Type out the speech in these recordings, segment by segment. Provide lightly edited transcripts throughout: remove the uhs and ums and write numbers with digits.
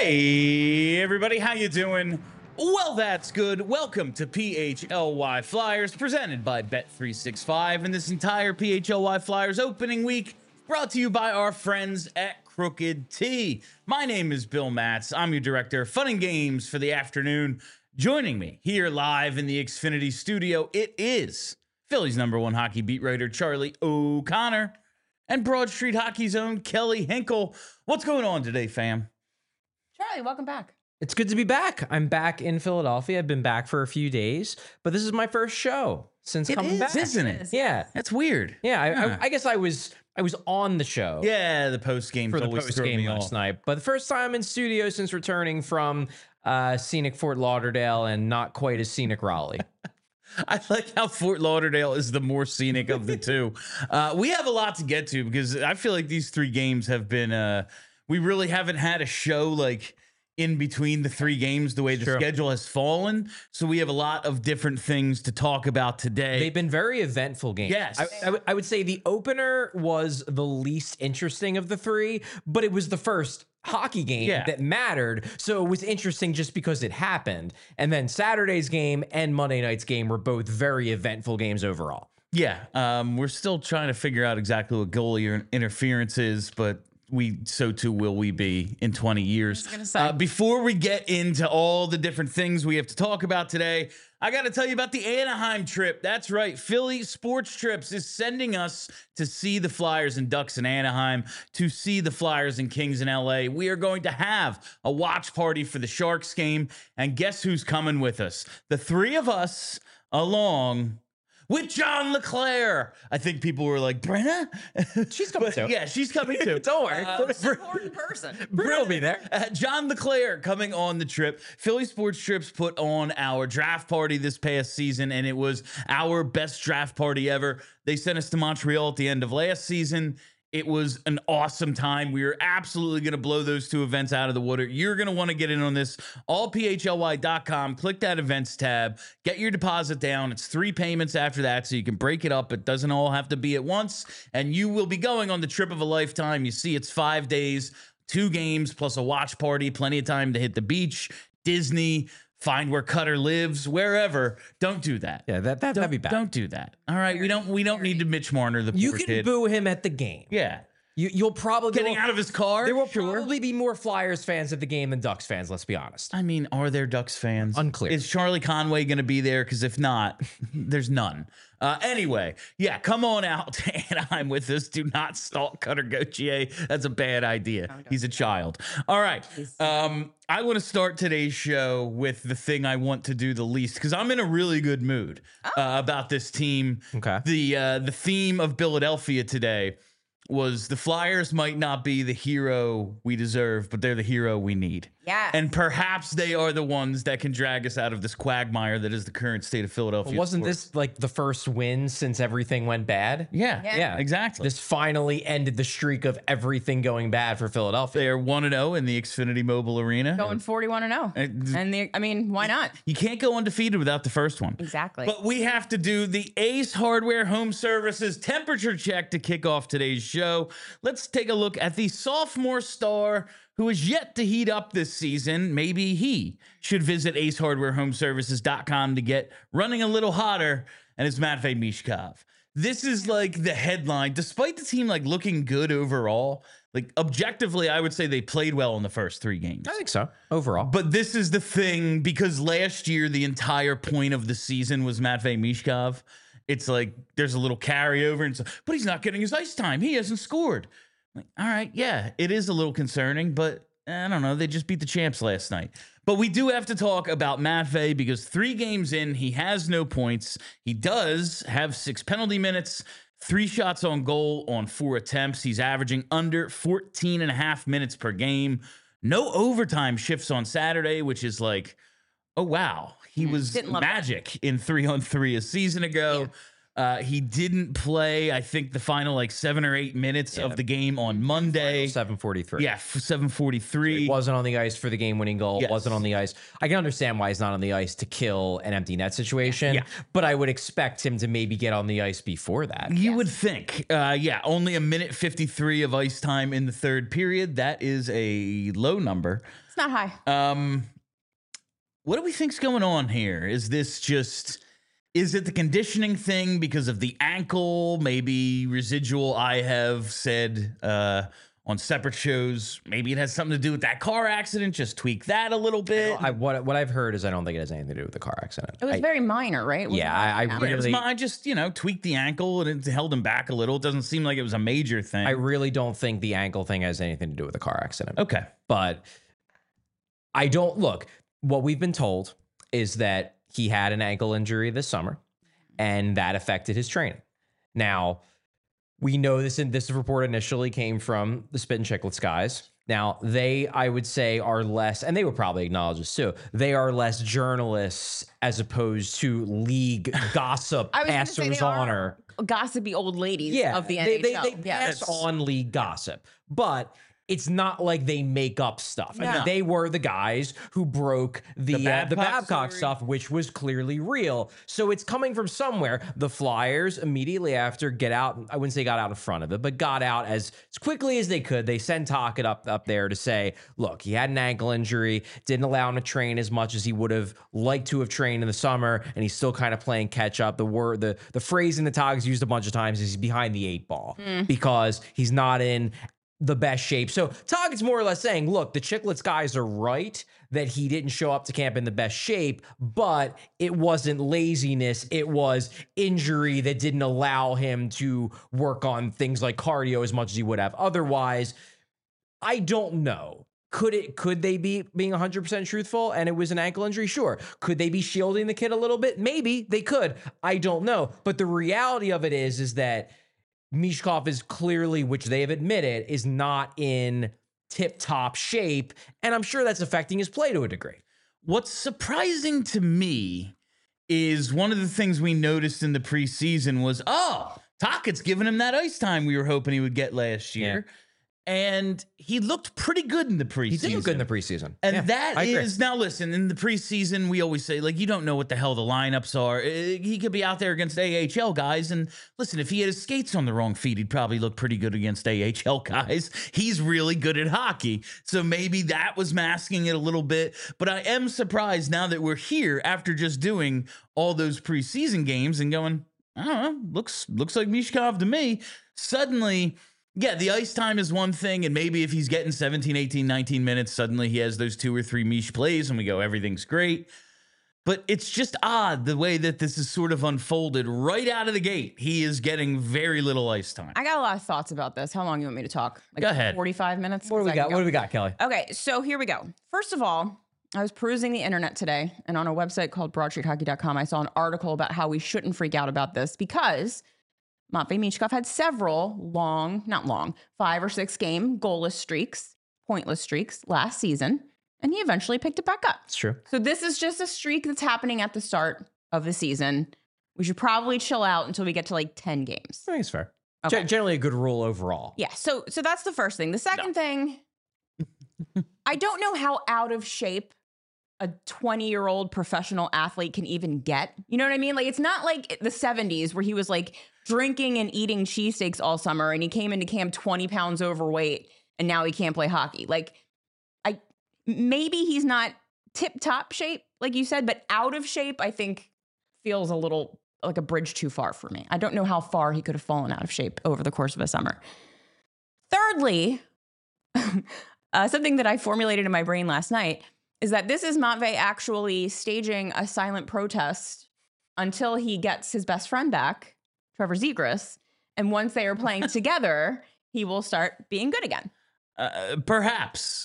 Hey everybody, how you doing? Well, that's good. Welcome to PHLY Flyers, presented by Bet365, and this entire PHLY Flyers opening week brought to you by our friends at Crooked T. My name is Bill Matz. I'm your director of fun and games for the afternoon. Joining me here live in the Xfinity studio, it is Philly's #1 hockey beat writer, Charlie O'Connor, and Broad Street Hockey's own Kelly Hinkle. What's going on today, fam? Charlie, welcome back. It's good to be back. I'm back in Philadelphia. I've been back for a few days, but this is my first show since coming back. Isn't it? Yeah, That's weird. yeah. I guess I was on the show. Yeah, the post game for the post game last night, but the first time in studio since returning from scenic Fort Lauderdale and not quite as scenic Raleigh. I like how Fort Lauderdale is the more scenic of the two. We have a lot to get to because I feel like these three games have been. We really haven't had a show like in between the three games the way the schedule has fallen. So we have a lot of different things to talk about today. They've been very eventful games. Yes. I would say the opener was the least interesting of the three, but it was the first hockey game that mattered. So it was interesting just because it happened. And then Saturday's game and Monday night's game were both very eventful games overall. Yeah. We're still trying to figure out exactly what goalie interference is, but so too will we be in 20 years. Before we get into all the different things we have to talk about today, I got to tell you about the Anaheim trip. That's right. Philly Sports Trips is sending us to see the Flyers and Ducks in Anaheim, to see the Flyers and Kings in LA. We are going to have a watch party for the Sharks game. And guess who's coming with us? The three of us along with John LeClair. I think people were like, Brenna? She's coming too. Yeah, she's coming too. Don't worry. Important person. Brenna will be there. John LeClair coming on the trip. Philly Sports Trips put on our draft party this past season, and it was our best draft party ever. They sent us to Montreal at the end of last season. It was an awesome time. We are absolutely going to blow those two events out of the water. You're going to want to get in on this. Allphly.com. Click that events tab. Get your deposit down. It's 3 payments after that, so you can break it up. It doesn't all have to be at once. And you will be going on the trip of a lifetime. You see, it's 5 days, 2 games, plus a watch party. Plenty of time to hit the beach, Disney, find where Cutter lives, wherever. Don't do that. Yeah, that'd be bad. Don't do that. All right, we don't need to Mitch Marner the You poor can kid. boo him at the game. Yeah. You'll probably Getting out of his car? There will probably be more Flyers fans at the game than Ducks fans, let's be honest. I mean, are there Ducks fans? Unclear. Is Charlie Conway going to be there? Because if not, there's none. Anyway, yeah, come on out to Anaheim with us. Do not stalk Cutter Gauthier. That's a bad idea. He's a child. All right. I want to start today's show with the thing I want to do the least because I'm in a really good mood about this team. Okay. The theme of Philadelphia today was the Flyers might not be the hero we deserve, but they're the hero we need. Yes. And perhaps they are the ones that can drag us out of this quagmire that is the current state of Philadelphia. Wasn't sports. this like the first win since everything went bad? Yeah, exactly. This finally ended the streak of everything going bad for Philadelphia. They are 1-0 in the Xfinity Mobile Arena. Going 41-0. And why not? You can't go undefeated without the first one. Exactly. But we have to do the Ace Hardware Home Services temperature check to kick off today's show. Let's take a look at the sophomore star who is yet to heat up this season. Maybe he should visit acehardwarehomeservices.com to get running a little hotter, and it's Matvei Mishkov. This is like the headline. Despite the team like looking good overall, like objectively, I would say they played well in the first 3 games. I think so, overall. But this is the thing, because last year, the entire point of the season was Matvei Mishkov. It's like there's a little carryover, and but he's not getting his ice time. He hasn't scored. Like, all right, yeah, it is a little concerning, but I don't know. They just beat the champs last night. But we do have to talk about Matvei because 3 games in, he has no points. He does have 6 penalty minutes, 3 shots on goal on 4 attempts. He's averaging under 14 and a half minutes per game. No overtime shifts on Saturday, which is like, oh, wow. He was magic in 3-on-3 a season ago. Yeah. He didn't play, I think, the final like 7 or 8 minutes of the game on Monday. 7:43. Yeah, 7:43. So he wasn't on the ice for the game-winning goal. Yes. Wasn't on the ice. I can understand why he's not on the ice to kill an empty net situation. Yeah. But I would expect him to maybe get on the ice before that. You would think. Yeah, only 1:53 of ice time in the third period. That is a low number. It's not high. What do we think's going on here? Is it the conditioning thing because of the ankle? Maybe residual, I have said on separate shows. Maybe it has something to do with that car accident. Just tweak that a little bit. What I've heard is I don't think it has anything to do with the car accident. It was very minor, right? I really... I just, tweaked the ankle and it held him back a little. It doesn't seem like it was a major thing. I really don't think the ankle thing has anything to do with the car accident. Okay. But I don't... Look, what we've been told is that he had an ankle injury this summer and that affected his training. Now, we know this, and this report initially came from the Spittin' Chicklets guys. Now, they, I would say, are less, and they would probably acknowledge this too, they are less journalists as opposed to league gossip passers on or gossipy old ladies of the NHL. They pass on league gossip, but it's not like they make up stuff. No. They were the guys who broke the Babcock story. stuff, which was clearly real. So it's coming from somewhere. The Flyers immediately after get out. I wouldn't say got out in front of it, but got out as quickly as they could. They sent Tocchet up there to say, look, he had an ankle injury, didn't allow him to train as much as he would have liked to have trained in the summer, and he's still kind of playing catch up. The phrasing that Tocchet's used a bunch of times is he's behind the 8 ball because he's not in the best shape. So Tocchet's more or less saying, look, the Chicklets guys are right that he didn't show up to camp in the best shape, but it wasn't laziness. It was injury that didn't allow him to work on things like cardio as much as he would have. Otherwise, I don't know. Could they be being 100% truthful and it was an ankle injury? Sure. Could they be shielding the kid a little bit? Maybe they could. I don't know. But the reality of it is that Michkov is clearly, which they have admitted, is not in tip-top shape, and I'm sure that's affecting his play to a degree. What's surprising to me is one of the things we noticed in the preseason was, Tocchet's giving him that ice time we were hoping he would get last year. Yeah. And he looked pretty good in the preseason. He did look good in the preseason. And that is, now listen, in the preseason, we always say, like, you don't know what the hell the lineups are. He could be out there against AHL guys. And listen, if he had his skates on the wrong feet, he'd probably look pretty good against AHL guys. He's really good at hockey. So maybe that was masking it a little bit. But I am surprised now that we're here after just doing all those preseason games and going, I don't know, looks like Michkov to me. Suddenly, yeah, the ice time is one thing, and maybe if he's getting 17, 18, 19 minutes, suddenly he has those 2 or 3 Mish plays, and we go, everything's great. But it's just odd the way that this is sort of unfolded right out of the gate. He is getting very little ice time. I got a lot of thoughts about this. How long do you want me to talk? Like go ahead. 45 minutes? What do we got? What do we got, Kelly? Okay, so here we go. First of all, I was perusing the internet today, and on a website called BroadStreetHockey.com, I saw an article about how we shouldn't freak out about this because Matvei Michkov had several not long, 5 or 6 game goalless streaks, pointless streaks last season, and he eventually picked it back up. It's true. So this is just a streak that's happening at the start of the season. We should probably chill out until we get to like 10 games. I think it's fair. Okay. Generally a good rule overall. Yeah, so that's the first thing. The second thing, I don't know how out of shape a 20-year-old professional athlete can even get. You know what I mean? Like, it's not like the 70s where he was like drinking and eating cheesesteaks all summer and he came into camp 20 pounds overweight and now he can't play hockey. Like, maybe he's not tip-top shape, like you said, but out of shape, I think feels a little like a bridge too far for me. I don't know how far he could have fallen out of shape over the course of a summer. Thirdly, something that I formulated in my brain last night is that this is Matvei actually staging a silent protest until he gets his best friend back, Trevor Zegras. And once they are playing together, he will start being good again. Perhaps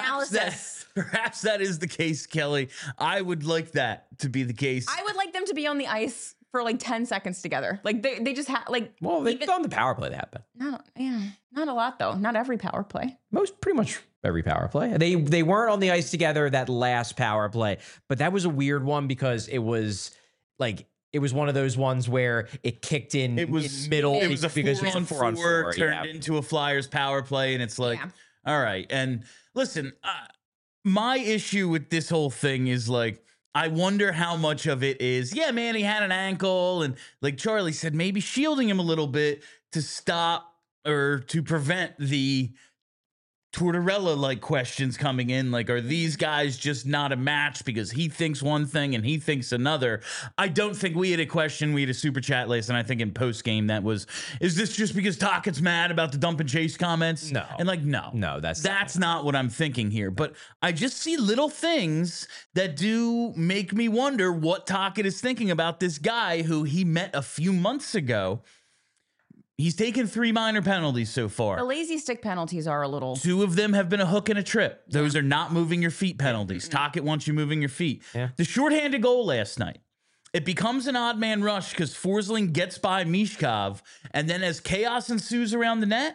that is the case, Kelly. I would like that to be the case. I would like them to be on the ice for like 10 seconds together. Like they just have like. Well, they've done the power play that happened. Not a lot though. Not every power play. Pretty much every power play. They weren't on the ice together that last power play, but that was a weird one because it was one of those ones where it kicked in. It was middle. It was a 4-on-4 turned into a Flyers power play, and it's like, all right. And listen, my issue with this whole thing is like, I wonder how much of it is, yeah, man, he had an ankle, and like Charlie said, maybe shielding him a little bit to stop or to prevent the Tortorella questions coming in, like, are these guys just not a match because he thinks one thing and he thinks another? I don't think we had a question. We had a super chat list, and I think in post game that was, is this just because Tockett's mad about the dump and chase comments? No. And no, that's not what I'm thinking here. But I just see little things that do make me wonder what Tocchet is thinking about this guy who he met a few months ago. He's taken 3 minor penalties so far. The lazy stick penalties are a little. 2 of them have been a hook and a trip. Those are not moving your feet penalties. Tocchet wants you moving your feet. Yeah. The shorthanded goal last night, it becomes an odd man rush because Forsling gets by Mishkov, and then as chaos ensues around the net,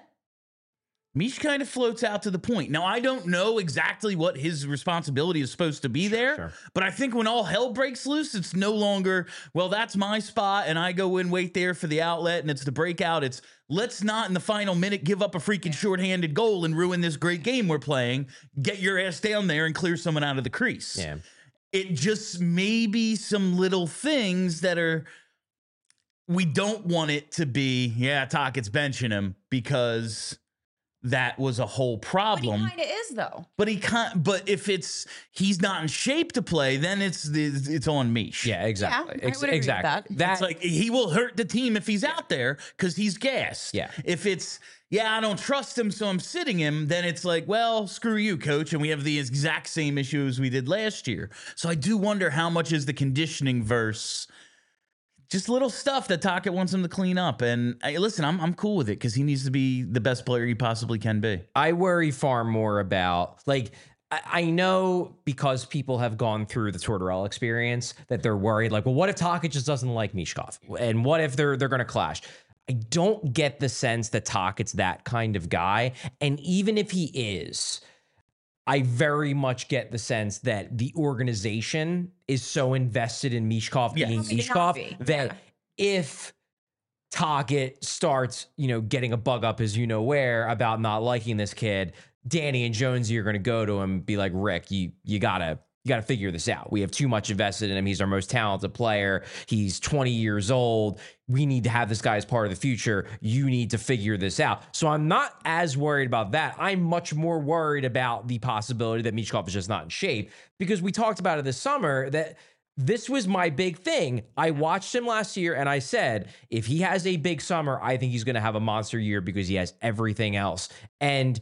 Mish kind of floats out to the point. Now, I don't know exactly what his responsibility is supposed to be there, but I think when all hell breaks loose, it's no longer, well, that's my spot, and I go in, wait there for the outlet, and it's the breakout. It's, let's not in the final minute give up a freaking shorthanded goal and ruin this great game we're playing. Get your ass down there and clear someone out of the crease. Yeah. It just may be some little things that are, we don't want it to be, Tocchet's benching him because that was a whole problem. But he kind of is, though. But he can't. But if he's not in shape to play, then it's on Mish. Yeah, exactly. Yeah, I would agree with that. It's like he will hurt the team if he's out there because he's gassed. Yeah. If it's I don't trust him, so I'm sitting him, then it's like, well, screw you, coach, and we have the exact same issues we did last year. So I do wonder how much is the conditioning verse. Just little stuff that Tocchet wants him to clean up. And listen, I'm cool with it because he needs to be the best player he possibly can be. I worry far more about, I know because people have gone through the Tortorella experience that they're worried, well, what if Tocchet just doesn't like Mishkov? And what if they're going to clash? I don't get the sense that Tocchet's that kind of guy. And even if he is, I very much get the sense that the organization is so invested in Mishkov being Mishkov that if Tocchet starts, getting a bug up his where about not liking this kid, Danny and Jonesy are going to go to him and be like, Rick, you gotta figure this out. We have too much invested in him. He's our most talented player. He's 20 years old. We need to have this guy as part of the future. You need to figure this out. So I'm not as worried about that. I'm much more worried about the possibility that Mishkov is just not in shape, because we talked about it this summer that this was my big thing. I watched him last year and I said, if he has a big summer, I think he's going to have a monster year because he has everything else. And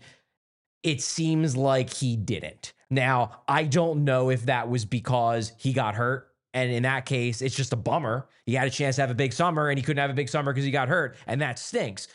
it seems like he didn't. Now, I don't know if that was because he got hurt. And in that case, it's just a bummer. He had a chance to have a big summer and he couldn't have a big summer because he got hurt. And that stinks.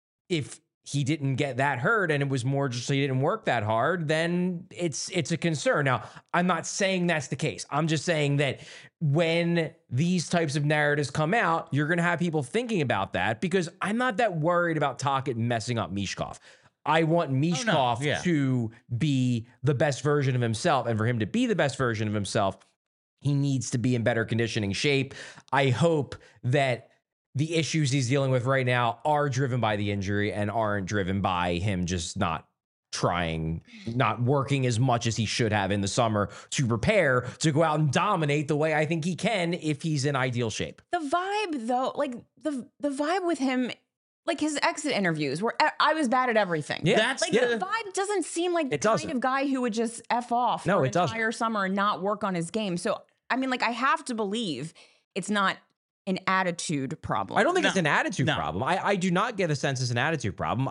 If he didn't get that hurt and it was more just so he didn't work that hard, then it's a concern. Now, I'm not saying that's the case. I'm just saying that when these types of narratives come out, you're going to have people thinking about that, because I'm not that worried about Tocchet messing up Mishkov. I want Mishkov to be the best version of himself. And for him to be the best version of himself, he needs to be in better conditioning shape. I hope that the issues he's dealing with right now are driven by the injury and aren't driven by him just not trying, not working as much as he should have in the summer to prepare to go out and dominate the way I think he can if he's in ideal shape. The vibe, though, the vibe with him, his exit interviews where I was bad at everything. Yeah, the vibe doesn't seem like the kind of guy who would just F off for an entire summer and not work on his game. So, I mean, I have to believe it's not an attitude problem. I don't think it's an attitude problem. I do not get a sense it's an attitude problem.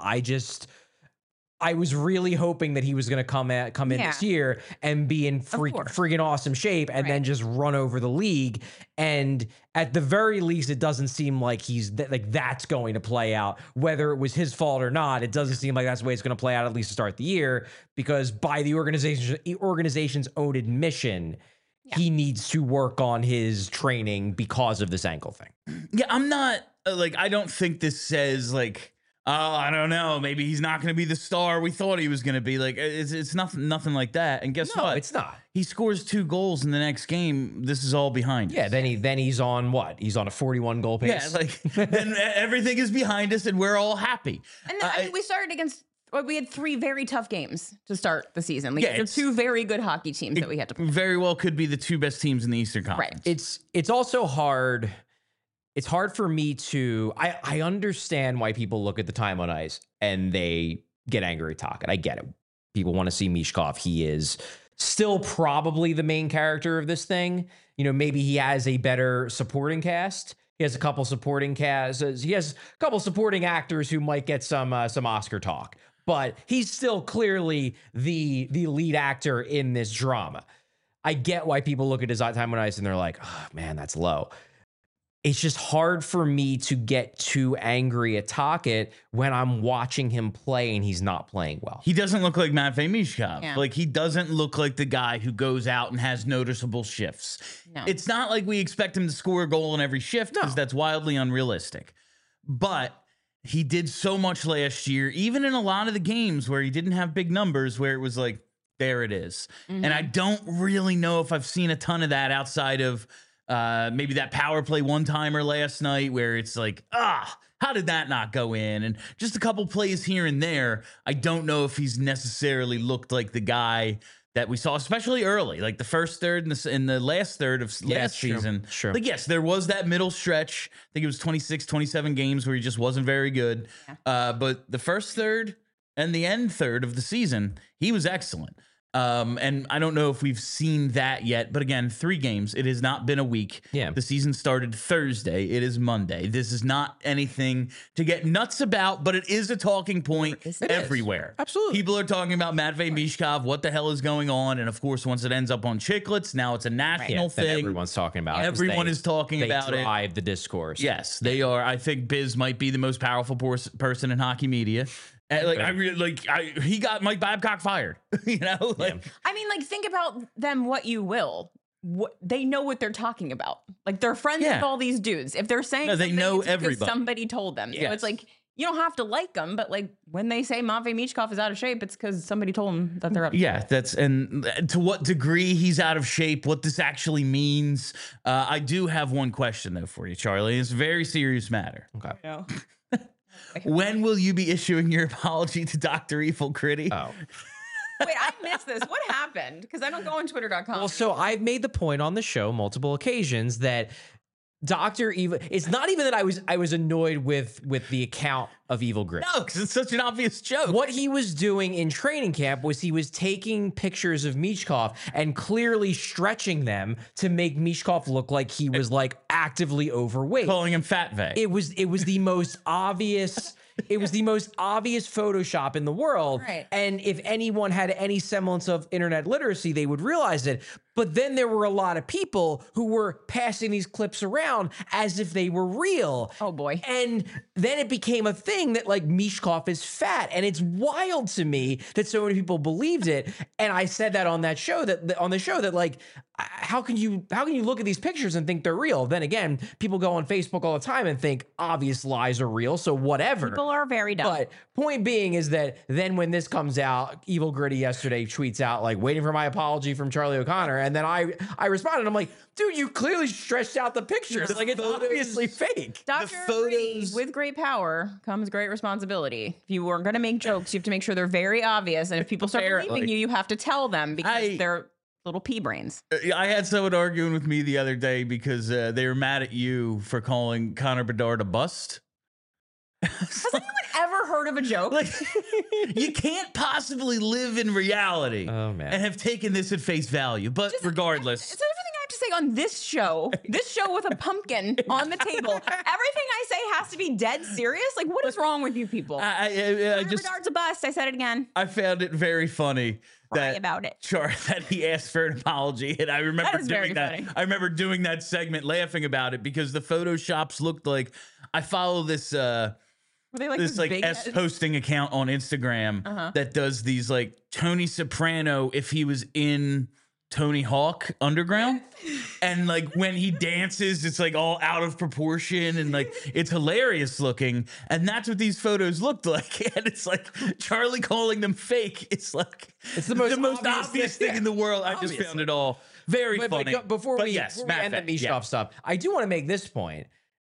I was really hoping that he was going to come in this year and be in freaking awesome shape and then just run over the league. And at the very least, it doesn't seem like that's going to play out. Whether it was his fault or not, it doesn't seem like that's the way it's going to play out, at least to start the year, because by the organization's own admission, he needs to work on his training because of this ankle thing. Yeah, I'm not I don't think this says oh, I don't know, maybe he's not going to be the star we thought he was going to be. It's nothing like that. And guess what? It's not. He scores 2 goals in the next game. This is all behind us. Yeah, then he's on what? He's on a 41 goal pace. Yeah, then everything is behind us and we're all happy. And we started against. We had 3 very tough games to start the season. There's 2 very good hockey teams that we had to play. Very well could be the 2 best teams in the Eastern Conference. Right. It's also hard. It's hard for me to. I understand why people look at the time on ice and they get angry at Tocchet. I get it. people want to see Mishkov. He is still probably the main character of this thing. You know, maybe he has a better supporting cast. He has a couple supporting casts. He has a couple supporting actors who might get some Oscar talk, but he's still clearly the lead actor in this drama. I get why people look at his time on ice and they're like, oh man, that's low. It's just hard for me to get too angry at Tocchet when I'm watching him play and he's not playing well. He doesn't look like Matvei Mishkov. Yeah. Like, he doesn't look like the guy who goes out and has noticeable shifts. No. It's not like we expect him to score a goal in every shift, because that's wildly unrealistic. But he did so much last year, even in a lot of the games where he didn't have big numbers, where it was like, there it is. And I don't really know if I've seen a ton of that outside of maybe that power play one-timer last night where it's like, how did that not go in? And just a couple plays here and there. I don't know if he's necessarily looked like the guy that we saw, especially early, like the first third and the last third of last season. Sure. Like, yes, there was that middle stretch. I think it was 26, 27 games where he just wasn't very good. But the first third and the end third of the season, he was excellent. And I don't know if we've seen that yet, but again, 3 games. It has not been a week. Yeah. The season started Thursday. It is Monday. This is not anything to get nuts about, but it is a talking point everywhere. Absolutely. People are talking about Matvei Mishkov. What the hell is going on? And of course, once it ends up on Chiclets, now it's a national Then thing. everyone's talking about it. Everyone is talking about it. They drive the discourse. Yes, they are. I think Biz might be the most powerful person in hockey media. And he got Mike Babcock fired. You know, I mean, like, think about them what you will. They know what they're talking about. Like, they're friends with all these dudes. If they're saying they something, know it's because everybody. somebody told them. So it's like, you don't have to like them, but like when they say Matvei Mishkov is out of shape, it's because somebody told them that they're out of shape. And to what degree he's out of shape, what this actually means. I do have one question though for you, Charlie. It's a very serious matter. Okay. You know? When will you be issuing your apology to Dr. Evil Critty? Oh. Wait, I missed this. What happened? Because I don't go on Twitter.com. Well, so I've made the point on the show multiple occasions that Dr. Evil, it's not even that I was annoyed with the account of Evil Grit. No, because it's such an obvious joke. What he was doing in training camp was he was taking pictures of Mishkov and clearly stretching them to make Mishkov look like he was like actively overweight. Calling him Fat Vay. It was the most obvious. It was the most obvious Photoshop in the world. Right. And if anyone had any semblance of internet literacy, they would realize it. But then there were a lot of people who were passing these clips around as if they were real. Oh, boy. And then it became a thing that like Mishkov is fat. And it's wild to me that so many people believed it. And I said that on that show that like, how can you look at these pictures and think they're real? Then again, people go on Facebook all the time and think obvious lies are real. So whatever. People are very dumb. But point being is that then when this comes out, Evil Gritty yesterday tweets out like waiting for my apology from Charlie O'Connor. And then I responded, I'm like, dude, you clearly stretched out the pictures. Like it's obviously fake. Dr. Gritty, with great power comes great responsibility. If you are going to make jokes, you have to make sure they're very obvious. And if people start believing you, you have to tell them because they're little pea brains. I had someone arguing with me the other day because they were mad at you for calling Connor Bedard a bust. Has anyone ever heard of a joke? Like, you can't possibly live in reality Oh, man. and have taken this at face value. But regardless, It's everything I have to say on this show with a pumpkin on the table. Everything I say has to be dead serious. Like, what is wrong with you people? I just Bedard's a bust. I said it again. I found it very funny Cry about it. that he asked for an apology, and I remember That is very doing that. funny. I remember doing that segment, laughing about it because the photoshops looked like I follow this. Were they like This like big S posting account on Instagram that does these like Tony Soprano if he was in Tony Hawk Underground, and like when he dances, it's like all out of proportion and like it's hilarious looking, and that's what these photos looked like. And it's like Charlie calling them fake. It's like It's the most obvious thing in the world. I just found it all very funny. But before we end the Mishkov stuff, I do want to make this point.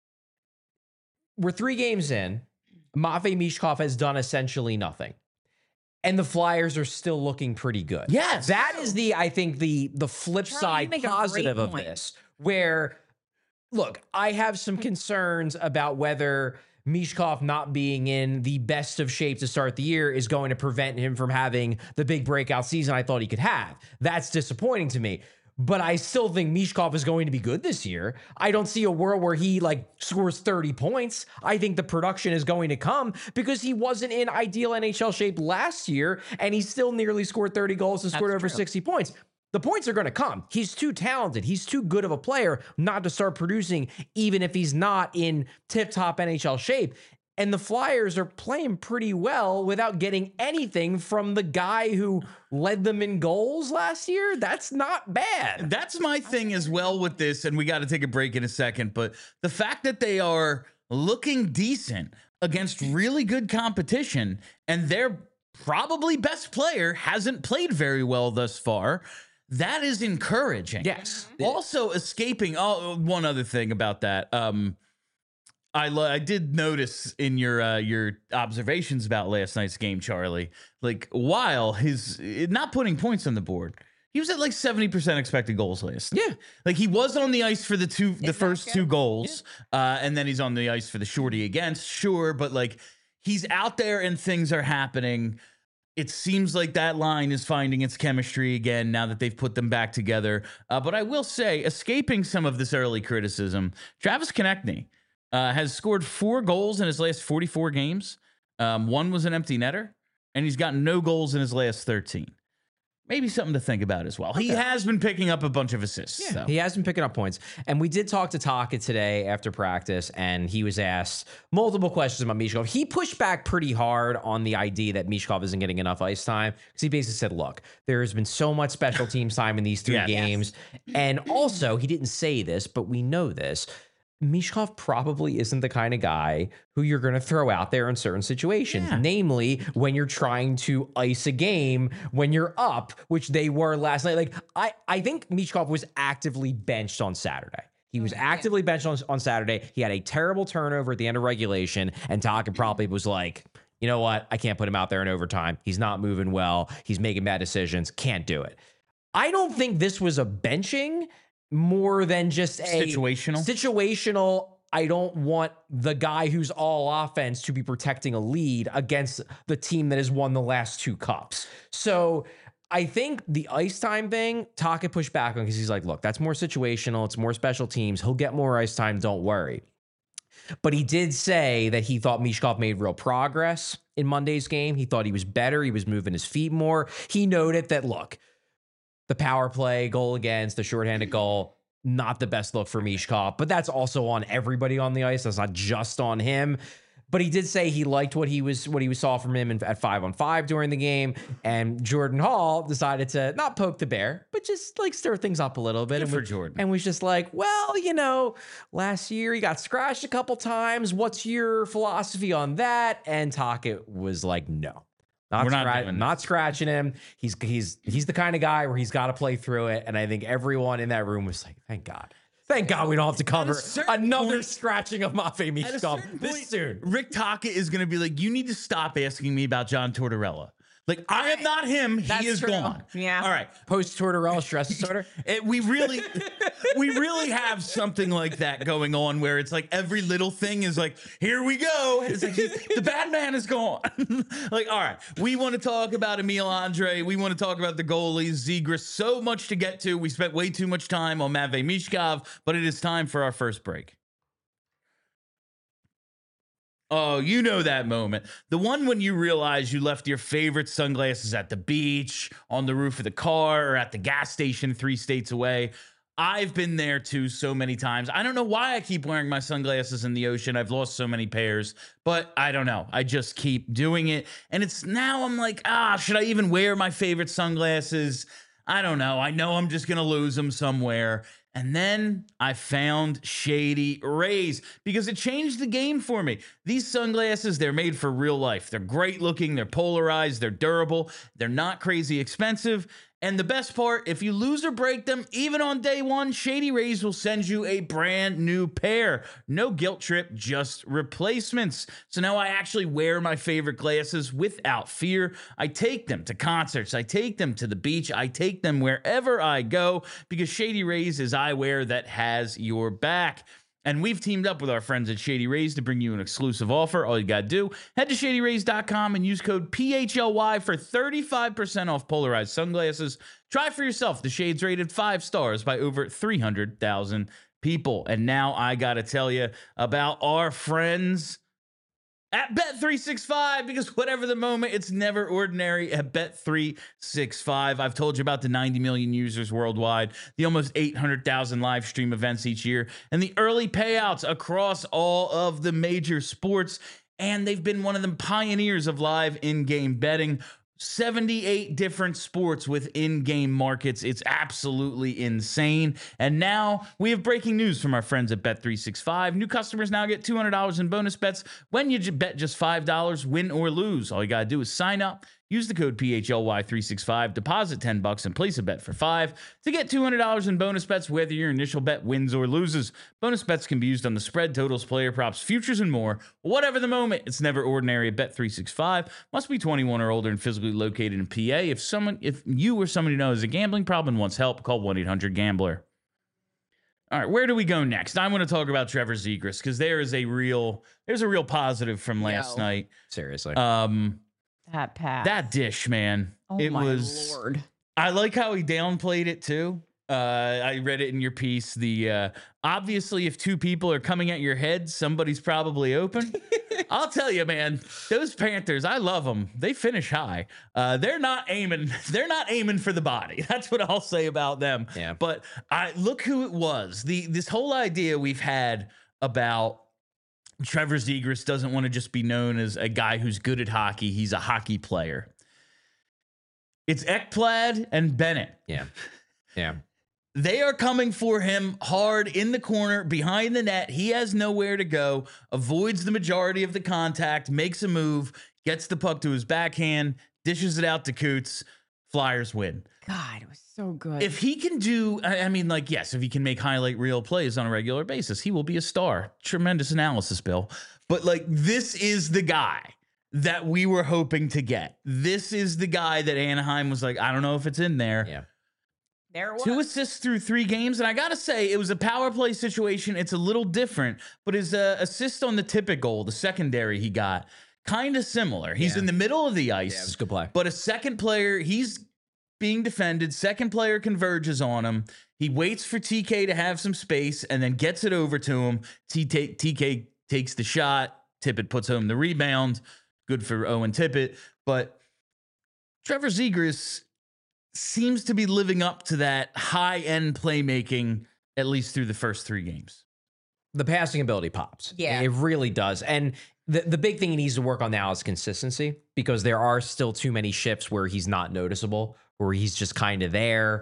We're 3 games in. Matvei Mishkov has done essentially nothing. And the Flyers are still looking pretty good. Yes. That is I think the flip Charlie, side you make a positive great of point. this, where look, I have some concerns about whether Mishkov not being in the best of shape to start the year is going to prevent him from having the big breakout season I thought he could have. That's disappointing to me. But I still think Mishkov is going to be good this year. I don't see a world where he scores 30 points. I think the production is going to come because he wasn't in ideal NHL shape last year, and he still nearly scored 30 goals and scored over 60 points. The points are going to come. He's too talented. He's too good of a player not to start producing, even if he's not in tip-top NHL shape. And the Flyers are playing pretty well without getting anything from the guy who led them in goals last year. That's not bad. That's my thing as well with this, and we got to take a break in a second, but the fact that they are looking decent against really good competition and their probably best player hasn't played very well thus far, that is encouraging. Yes. Also escaping. Oh, one other thing about that. I did notice in your observations about last night's game, Charlie, while his not putting points on the board, he was at 70% expected goals last. Yeah. He was on the ice for the first two goals. Yeah. And then he's on the ice for the shorty against, sure. But he's out there and things are happening. It seems like that line is finding its chemistry again now that they've put them back together. But I will say, escaping some of this early criticism, Travis Konechny has scored 4 goals in his last 44 games. One was an empty netter, and he's gotten no goals in his last 13. Maybe something to think about as well. Okay. He has been picking up a bunch of assists. Yeah, he has been picking up points. And we did talk to Taka today after practice, and he was asked multiple questions about Mishkov. He pushed back pretty hard on the idea that Mishkov isn't getting enough ice time, because he basically said, look, there has been so much special teams time in these 3 games. Yes. And also, he didn't say this, but we know this, Mishkov probably isn't the kind of guy who you're going to throw out there in certain situations, namely when you're trying to ice a game when you're up, which they were last night. I think Mishkov was actively benched on Saturday. He was actively benched on Saturday. He had a terrible turnover at the end of regulation, and Taka probably was like, you know what? I can't put him out there in overtime. He's not moving well. He's making bad decisions. Can't do it. I don't think this was a benching more than just a situational. I don't want the guy who's all offense to be protecting a lead against the team that has won the last 2 cups. So I think the ice time thing, Taka pushed back on because he's like, look, that's more situational. It's more special teams. He'll get more ice time. Don't worry. But he did say that he thought Mishkov made real progress in Monday's game. He thought he was better. He was moving his feet more. He noted that, look, the power play, goal against, the shorthanded goal, not the best look for Mishkov, but that's also on everybody on the ice. That's not just on him. But he did say he liked what he saw from him at 5-on-5 during the game. And Jordan Hall decided to not poke the bear, but just stir things up a little bit. Good for Jordan. And was just like, well, last year he got scratched a couple times. What's your philosophy on that? And Taka was like, no. Not scratching him. He's the kind of guy where he's got to play through it. And I think everyone in that room was like, thank God. Thank God we don't have to cover another scratching of Matvei Mishkov this soon. Rick Taka is going to be like, you need to stop asking me about John Tortorella. I am not him. He is gone. Yeah. All right. Post-Tortorella stress disorder. We really have something like that going on where it's every little thing is here we go. It's the bad man is gone. All right. We want to talk about Emil Andre. We want to talk about the goalies, Zegras. So much to get to. We spent way too much time on Matvei Mishkov, but it is time for our first break. Oh, you know that moment. The one when you realize you left your favorite sunglasses at the beach, on the roof of the car, or at the gas station 3 states away. I've been there too so many times. I don't know why I keep wearing my sunglasses in the ocean. I've lost so many pairs, but I don't know. I just keep doing it. And it's now I'm like, should I even wear my favorite sunglasses? I don't know. I know I'm just going to lose them somewhere. And then I found Shady Rays because it changed the game for me. These sunglasses, they're made for real life. They're great looking. They're polarized. They're durable. They're not crazy expensive. And the best part, if you lose or break them, even on day one, Shady Rays will send you a brand new pair. No guilt trip, just replacements. So now I actually wear my favorite glasses without fear. I take them to concerts. I take them to the beach. I take them wherever I go because Shady Rays is eyewear that has your back. And we've teamed up with our friends at Shady Rays to bring you an exclusive offer. All you got to do, head to shadyrays.com and use code PHLY for 35% off polarized sunglasses. Try for yourself. The shades rated 5 stars by over 300,000 people. And now I got to tell you about our friends at Bet365, because whatever the moment, it's never ordinary at Bet365. I've told you about the 90 million users worldwide, the almost 800,000 live stream events each year, and the early payouts across all of the major sports. And they've been one of the pioneers of live in-game betting. 78 different sports with in-game markets. It's absolutely insane. And now we have breaking news from our friends at Bet365. New customers now get $200 in bonus bets when you bet just $5, win or lose. All you got to do is sign up, use the code PHLY365, deposit $10 and place a bet for $5 to get $200 in bonus bets, whether your initial bet wins or loses. Bonus bets can be used on the spread, totals, player props, futures, and more. Whatever the moment, it's never ordinary at Bet365. Must be 21 or older and physically located in PA. If you or somebody knows a gambling problem and wants help, call 1-800-GAMBLER. All right, where do we go next? I want to talk about Trevor Zegras, because there's a real positive from last night. Seriously. That pass. That dish, man. Oh, it my was. Lord. I like how he downplayed it too. I read it in your piece. The obviously, if two people are coming at your head, somebody's probably open. I'll tell you, man. Those Panthers, I love them. They finish high. They're not aiming. They're not aiming for the body. That's what I'll say about them. Yeah. But look who it was. This whole idea we've had about Trevor Zegras doesn't want to just be known as a guy who's good at hockey. He's a hockey player. It's Ekblad and Bennett. Yeah. Yeah. They are coming for him hard in the corner, behind the net. He has nowhere to go, avoids the majority of the contact, makes a move, gets the puck to his backhand, dishes it out to Coots. Flyers win. God, it was so good. If he can do, yes, if he can make highlight reel plays on a regular basis, he will be a star. Tremendous analysis, Bill. But this is the guy that we were hoping to get. This is the guy that Anaheim was like, I don't know if it's in there. Yeah. There it was. 2 assists through 3 games. And I got to say, it was a power play situation. It's a little different, but his assist on the Tippett goal, the secondary he got, kind of similar. He's in the middle of the ice. Yeah, it was a good play. But a second player, he's being defended. Second player converges on him. He waits for TK to have some space and then gets it over to him. TK takes the shot. Tippett puts home the rebound. Good for Owen Tippett. But Trevor Zegras seems to be living up to that high-end playmaking, at least through the first 3 games. The passing ability pops. Yeah. It really does. And the big thing he needs to work on now is consistency, because there are still too many shifts where he's not noticeable, where he's just kind of there.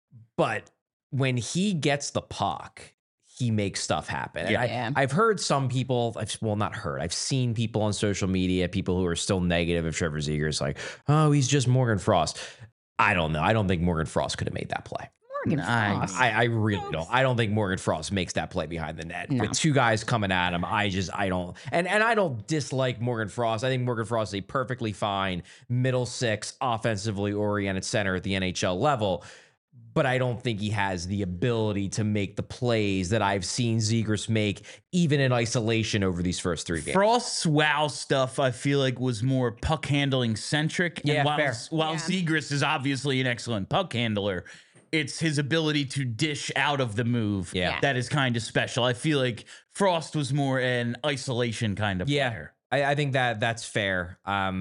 But when he gets the puck, he makes stuff happen. Yeah. I've heard some people, I've seen people on social media, people who are still negative of Trevor Zegras, like, oh, he's just Morgan Frost. I don't know. I don't think Morgan Frost could have made that play. Morgan Frost. I really don't. I don't think Morgan Frost makes that play behind the net. No. With 2 guys coming at him. I don't. And I don't dislike Morgan Frost. I think Morgan Frost is a perfectly fine middle 6 offensively oriented center at the NHL level. But I don't think he has the ability to make the plays that I've seen Zegras make, even in isolation over these first 3 games. Frost's wow stuff, I feel like, was more puck handling centric. Yeah, and while Yeah. Zegras is obviously an excellent puck handler, it's his ability to dish out of the move Yeah. that is kind of special. I feel like Frost was more an isolation kind of player. I think that's fair.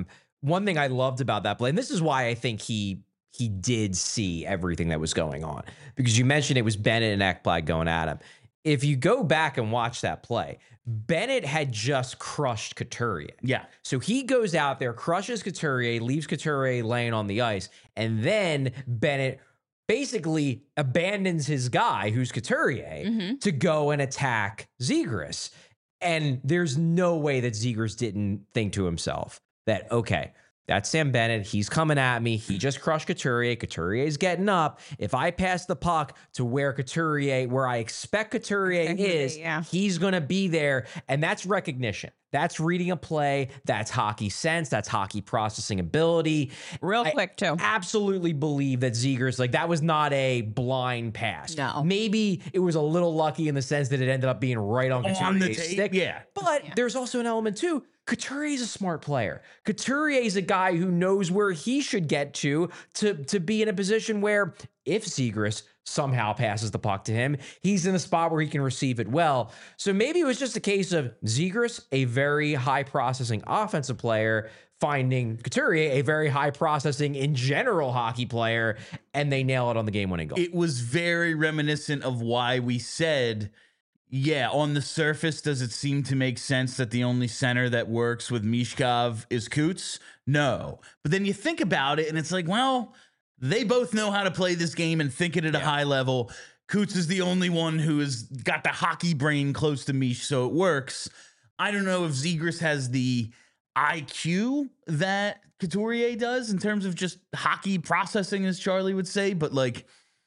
One thing I loved about that play, and this is why I think he did see everything that was going on, because you mentioned it was Bennett and Ekblad going at him. If you go back and watch that play, Bennett had just crushed Couturier. Yeah. So he goes out there, crushes Couturier, leaves Couturier laying on the ice, and then Bennett basically abandons his guy, who's Couturier, to go and attack Zegras. And there's no way that Zegras didn't think to himself that, okay, that's Sam Bennett. He's coming at me. He just crushed Couturier. Couturier's getting up. If I pass the puck to where I expect Couturier is, yeah. he's going to be there. And that's recognition. That's reading a play. That's hockey sense. That's hockey processing ability. Real quick, too. Absolutely believe that Zegras, like, that was not a blind pass. No. Maybe it was a little lucky in the sense that it ended up being right on Couturier's stick. Yeah. But there's also an element, too. Couturier is a smart player. Couturier is a guy who knows where he should get to be in a position where if Zegras somehow passes the puck to him, he's in a spot where he can receive it well. So maybe it was just a case of Zegras, a very high processing offensive player, finding Couturier, a very high processing in general hockey player, and they nail it on the game-winning goal. It was very reminiscent of why we said, yeah, on the surface, does it seem to make sense that the only center that works with Michkov is Coots? No. But then you think about it, and it's like, well, they both know how to play this game and think it at a high level. Coots is the only one who has got the hockey brain close to Mish, so it works. I don't know if Zegras has the IQ that Couturier does in terms of just hockey processing, as Charlie would say, but like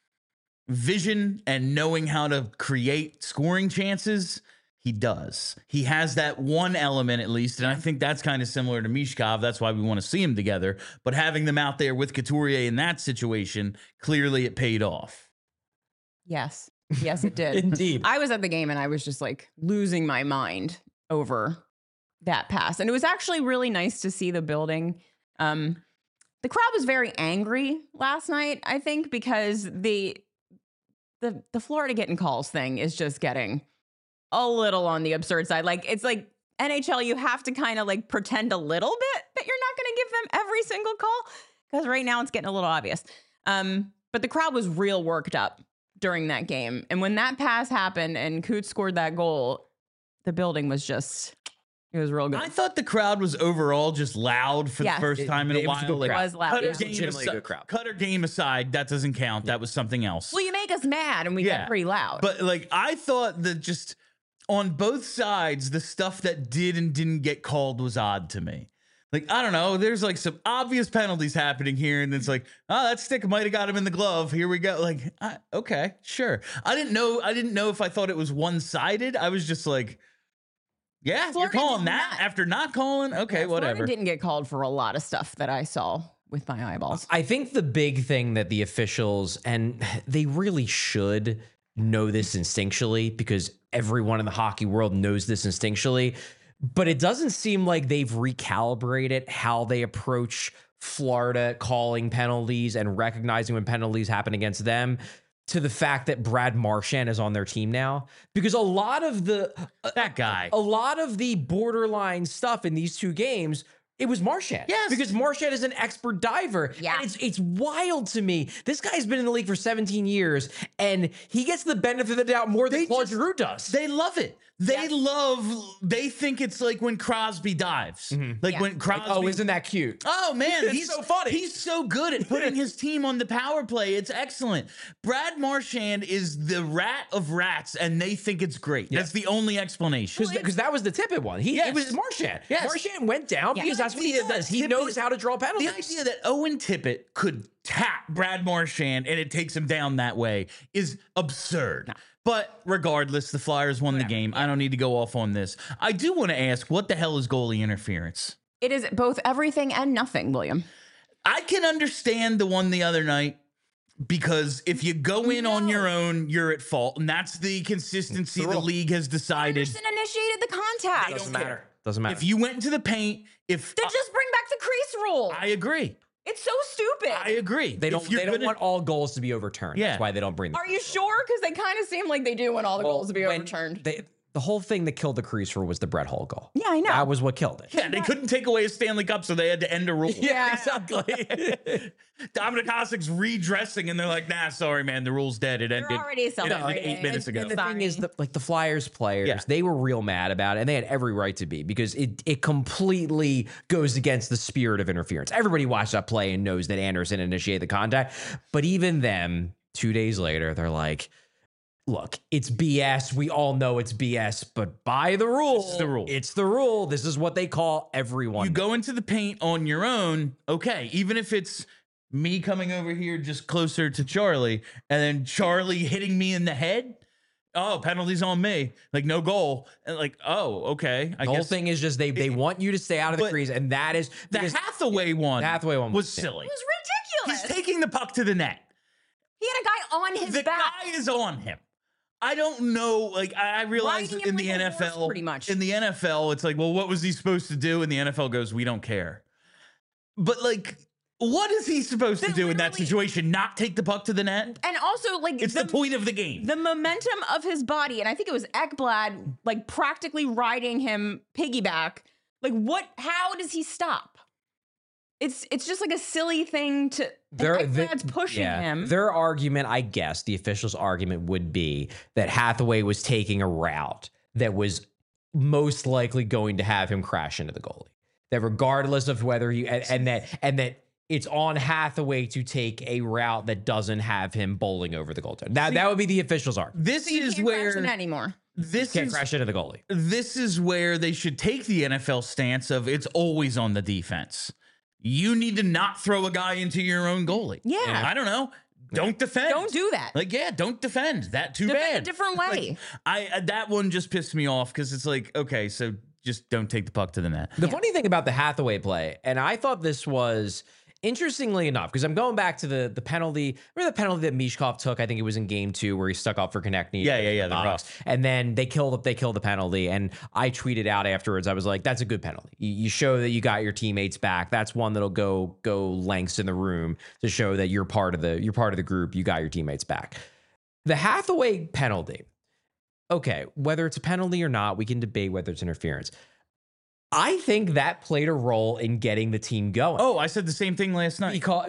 vision and knowing how to create scoring chances, he does. He has that one element at least, and I think that's kind of similar to Michkov. That's why we want to see them together. But having them out there with Couturier in that situation, clearly it paid off. Yes. Yes, it did. Indeed. I was at the game and I was just like losing my mind over that pass. And it was actually really nice to see the building. The crowd was very angry last night, I think, because the Florida getting calls thing is just getting a little on the absurd side. Like, it's like NHL, you have to kind of like pretend a little bit that you're not going to give them every single call, because right now it's getting a little obvious. But the crowd was real worked up during that game. And when that pass happened and Coots scored that goal, the building was just, it was real good. I thought the crowd was overall just loud for the first time in a while. It was loud. Cutter game aside, that doesn't count. That was something else. Well, you make us mad and we get pretty loud. But like, I thought that just on both sides, the stuff that did and didn't get called was odd to me. Like, I don't know, there's like some obvious penalties happening here, and it's like, oh, that stick might have got him in the glove. Here we go. Like, okay, sure. I didn't know if I thought it was one-sided. I was just like, yeah, Florida, you're calling that after not calling? Okay, yeah, whatever. Florida didn't get called for a lot of stuff that I saw with my eyeballs. I think the big thing that the officials, and they really should know this instinctually, because everyone in the hockey world knows this instinctually, but it doesn't seem like they've recalibrated how they approach Florida calling penalties and recognizing when penalties happen against them, to the fact that Brad Marchand is on their team now. Because a lot of the a lot of the borderline stuff in these two games, it was Marchand. Yes. Because Marchand is an expert diver. Yeah. And it's wild to me. This guy's been in the league for 17 years, and he gets the benefit of the doubt more than Claude Giroux does. They love it. They think it's like when Crosby dives. Mm-hmm. Like when Crosby. Oh, isn't that cute? Oh, man. He's so funny. He's so good at putting his team on the power play. It's excellent. Brad Marchand is the rat of rats, and they think it's great. Yeah. That's the only explanation. Because that was the Tippett one. It was Marchand. Yes. Marchand went down because that's what he does. He knows how to draw penalties. The idea that Owen Tippett could tap Brad Marchand and it takes him down that way is absurd. No. But regardless, the Flyers won the game. I don't need to go off on this. I do want to ask, what the hell is goalie interference? It is both everything and nothing, William. I can understand the one the other night, because if you go in on your own, you're at fault. And that's the consistency the league has decided. Anderson initiated the contact. Doesn't matter. Doesn't matter. If you went into the paint, then just bring back the crease rule. I agree. It's so stupid. I agree. They don't want all goals to be overturned. Yeah. That's why they don't bring them. Are you sure? Because they kind of seem like they do want all the goals to be overturned. The whole thing that killed the crease rule was the Brett Hull goal. Yeah, I know. That was what killed it. Yeah, they couldn't take away a Stanley Cup, so they had to end a rule. Yeah, exactly. Dominic Hasek's redressing, and they're like, nah, sorry, man, the rule's dead. It ended already like 8 minutes ago. And the thing is, the Flyers players, they were real mad about it, and they had every right to be, because it completely goes against the spirit of interference. Everybody watched that play and knows that Anderson initiated the contact. But even them, 2 days later, they're like, look, it's BS. We all know it's BS, but by the rule, it's the rule. It's the rule. This is what they call everyone. You go into the paint on your own, okay, even if it's me coming over here just closer to Charlie and then Charlie hitting me in the head, oh, penalties on me, like no goal, and like, oh, okay. The whole thing is just they want you to stay out of the crease, and that is the Hathaway one. The Hathaway one was silly. It was ridiculous. He's taking the puck to the net. He had a guy on his back. The guy is on him. I don't know. Like, I realize Riding in him the like a horse, NFL, pretty much. in the NFL, it's like, well, what was he supposed to do? And the NFL goes, we don't care. But like, what is he supposed to do in that situation? Not take the puck to the net? And also, like, it's the point of the game. The momentum of his body, and I think it was Ekblad, like, practically riding him piggyback. Like, how does he stop? It's just like a silly thing to. Ekblad's pushing him. Their argument, I guess, the official's argument would be that Hathaway was taking a route that was most likely going to have him crash into the goalie. That regardless of whether he and that it's on Hathaway to take a route that doesn't have him bowling over the goaltender. That would be the official's argument. This is where anymore. Can't crash into the goalie. This is where they should take the NFL stance of it's always on the defense. You need to not throw a guy into your own goalie. Yeah. I don't know. Don't defend. Don't do that. Like, yeah, don't defend. That too Defend bad. a different way. Like, that one just pissed me off because it's like, okay, so just don't take the puck to the net. The funny thing about the Hathaway play, and I thought this was interestingly enough, because I'm going back to the penalty. Remember the penalty that Mishkov took? I think it was in game 2 where he stuck up for Konechny. Yeah. The box. And then they killed the penalty. And I tweeted out afterwards, I was like, that's a good penalty. You show that you got your teammates back. That's one that'll go lengths in the room to show that you're part of the group. You got your teammates back. The Hathaway penalty. Okay, whether it's a penalty or not, we can debate whether it's interference. I think that played a role in getting the team going. Oh, I said the same thing last night. Because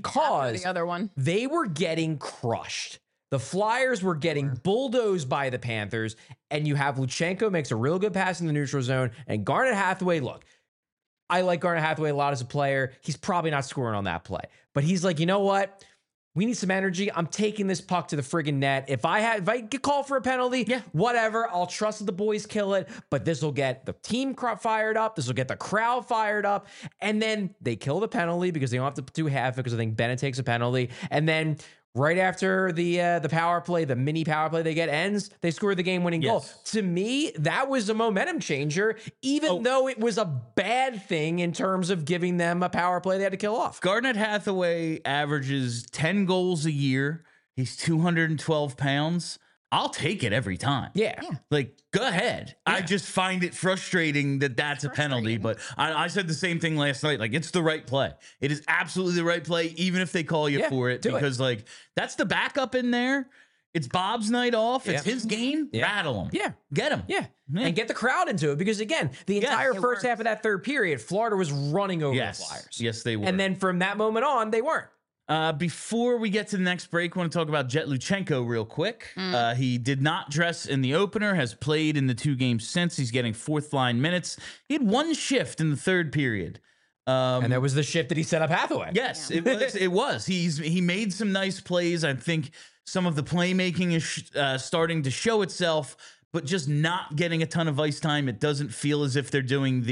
the other one, they were getting crushed. The Flyers were getting bulldozed by the Panthers, and you have Luchenko makes a real good pass in the neutral zone, and Garnet Hathaway, look, I like Garnet Hathaway a lot as a player. He's probably not scoring on that play, but he's like, you know what? We need some energy. I'm taking this puck to the friggin' net. If I get called for a penalty, whatever. I'll trust that the boys kill it. But this will get the team fired up. This will get the crowd fired up. And then they kill the penalty because they don't have to do half it because I think Bennett takes a penalty. And then right after the power play, the mini power play they get ends, they score the game-winning goal. To me, that was a momentum changer, even though it was a bad thing in terms of giving them a power play they had to kill off. Garnet Hathaway averages 10 goals a year. He's 212 pounds. I'll take it every time. Yeah. Like, go ahead. Yeah. I just find it frustrating that that's a penalty. But I said the same thing last night. Like, it's the right play. It is absolutely the right play, even if they call you for it. Because, like, that's the backup in there. It's Bob's night off. It's his game. Rattle him. Yeah. Get him. Yeah. And get the crowd into it. Because, again, the entire first half of that third period, Florida was running over the Flyers. Yes, they were. And then from that moment on, they weren't. Before we get to the next break, I want to talk about Jet Luchenko real quick. He did not dress in the opener, has played in the 2 games since. He's getting fourth line minutes. He had 1 shift in the third period. And that was the shift that he set up Hathaway. Yes, it was. He made some nice plays. I think some of the playmaking is starting to show itself, but just not getting a ton of ice time. It doesn't feel as if they're doing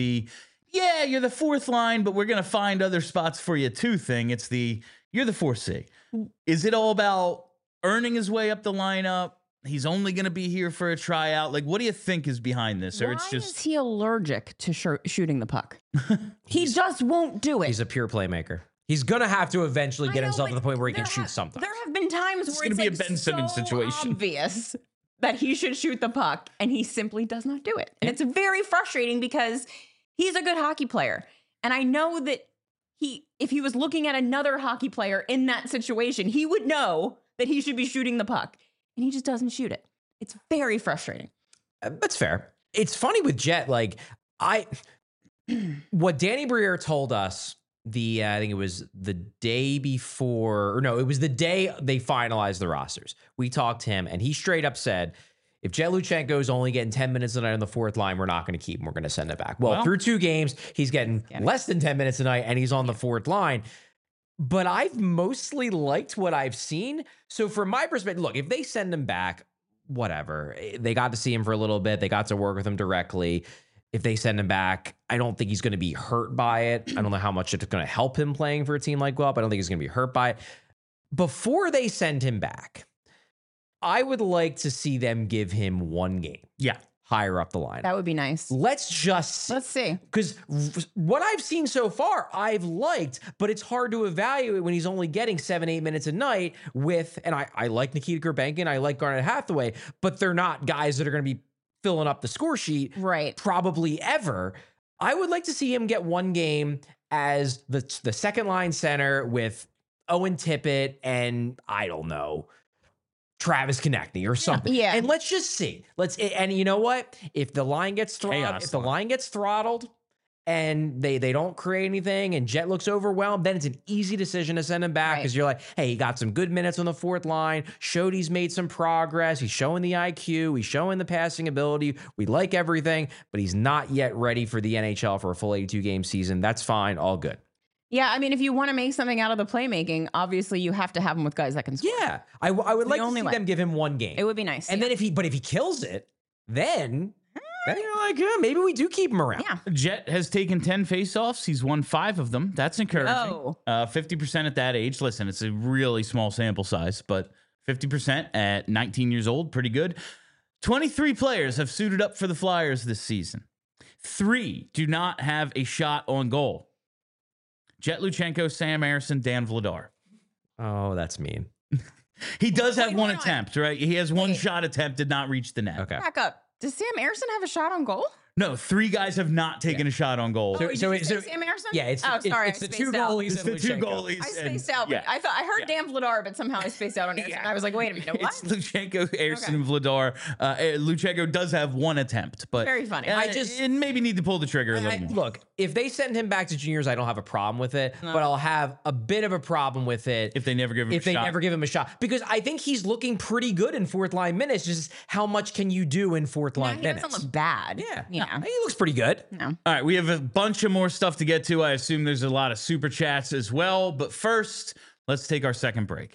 you're the fourth line, but we're going to find other spots for you too thing. It's you're the 4C. Is it all about earning his way up the lineup? He's only going to be here for a tryout. Like, what do you think is behind this? Or Why is he allergic to shooting the puck? He just won't do it. He's a pure playmaker. He's going to have to eventually get himself to the point where he can shoot something. There have been times where it's going to be a Ben Simmons situation. Obvious that he should shoot the puck, and he simply does not do it. And it's very frustrating because he's a good hockey player. And I know that if he was looking at another hockey player in that situation, he would know that he should be shooting the puck, and he just doesn't shoot it. It's very frustrating. That's fair. It's funny with Jet, like what Danny Briere told us I think it was the day before, or no, it was the day they finalized the rosters. We talked to him, and he straight up said, if Jet Luchenko is only getting 10 minutes a night on the fourth line, we're not going to keep him. We're going to send it back. Well, through 2 games, he's getting less than 10 minutes a night, and he's on the fourth line. But I've mostly liked what I've seen. So from my perspective, look, if they send him back, whatever. They got to see him for a little bit. They got to work with him directly. If they send him back, I don't think he's going to be hurt by it. I don't know how much it's going to help him playing for a team like Guelph. I don't think he's going to be hurt by it. Before they send him back, I would like to see them give him one game. Yeah. Higher up the line. That would be nice. Let's see. Because what I've seen so far, I've liked, but it's hard to evaluate when he's only getting 7-8 minutes a night with, and I like Nikita Gurbankin, I like Garnet Hathaway, but they're not guys that are going to be filling up the score sheet probably ever. I would like to see him get one game as the second line center with Owen Tippett and I don't know, Travis Konechny or something. Yeah. And let's just see. And you know what? If the line gets throttled, and they don't create anything and Jet looks overwhelmed, then it's an easy decision to send him back because you're like, hey, he got some good minutes on the fourth line, showed he's made some progress, he's showing the IQ, he's showing the passing ability, we like everything, but he's not yet ready for the NHL for a full 82-game season. That's fine, all good. Yeah, I mean, if you want to make something out of the playmaking, obviously you have to have him with guys that can score. Yeah, I would like to see them give him one game. It would be nice. And then if he kills it, then you're like, maybe we do keep him around. Yeah. Jet has taken 10 faceoffs. He's won 5 of them. That's encouraging. 50% at that age. Listen, it's a really small sample size, but 50% at 19 years old, pretty good. 23 players have suited up for the Flyers this season. 3 do not have a shot on goal. Jet Luchenko, Sam Ersson, Dan Vladar. Oh, that's mean. He does have one attempt, right? He has one shot attempt, did not reach the net. Okay. Back up. Does Sam Ersson have a shot on goal? No, 3 guys have not taken a shot on goal. So Sam Ersson? Yeah, it's the 2 goalies. It's the 2 goalies. I spaced out. Yeah. I heard Dan Vladar, but somehow I spaced out on Ersson. I was like, wait a minute, what? It's Luchenko, Ersson, and Vladar. Luchenko does have one attempt, but very funny. I just maybe need to pull the trigger a little more. Look, if they send him back to juniors, I don't have a problem with it, but I'll have a bit of a problem with it if they never give him a shot. Because I think he's looking pretty good in fourth line minutes. Just how much can you do in fourth line minutes? He doesn't look bad. Yeah. He looks pretty good. No. All right, we have a bunch of more stuff to get to. I assume there's a lot of super chats as well. But first, let's take our second break.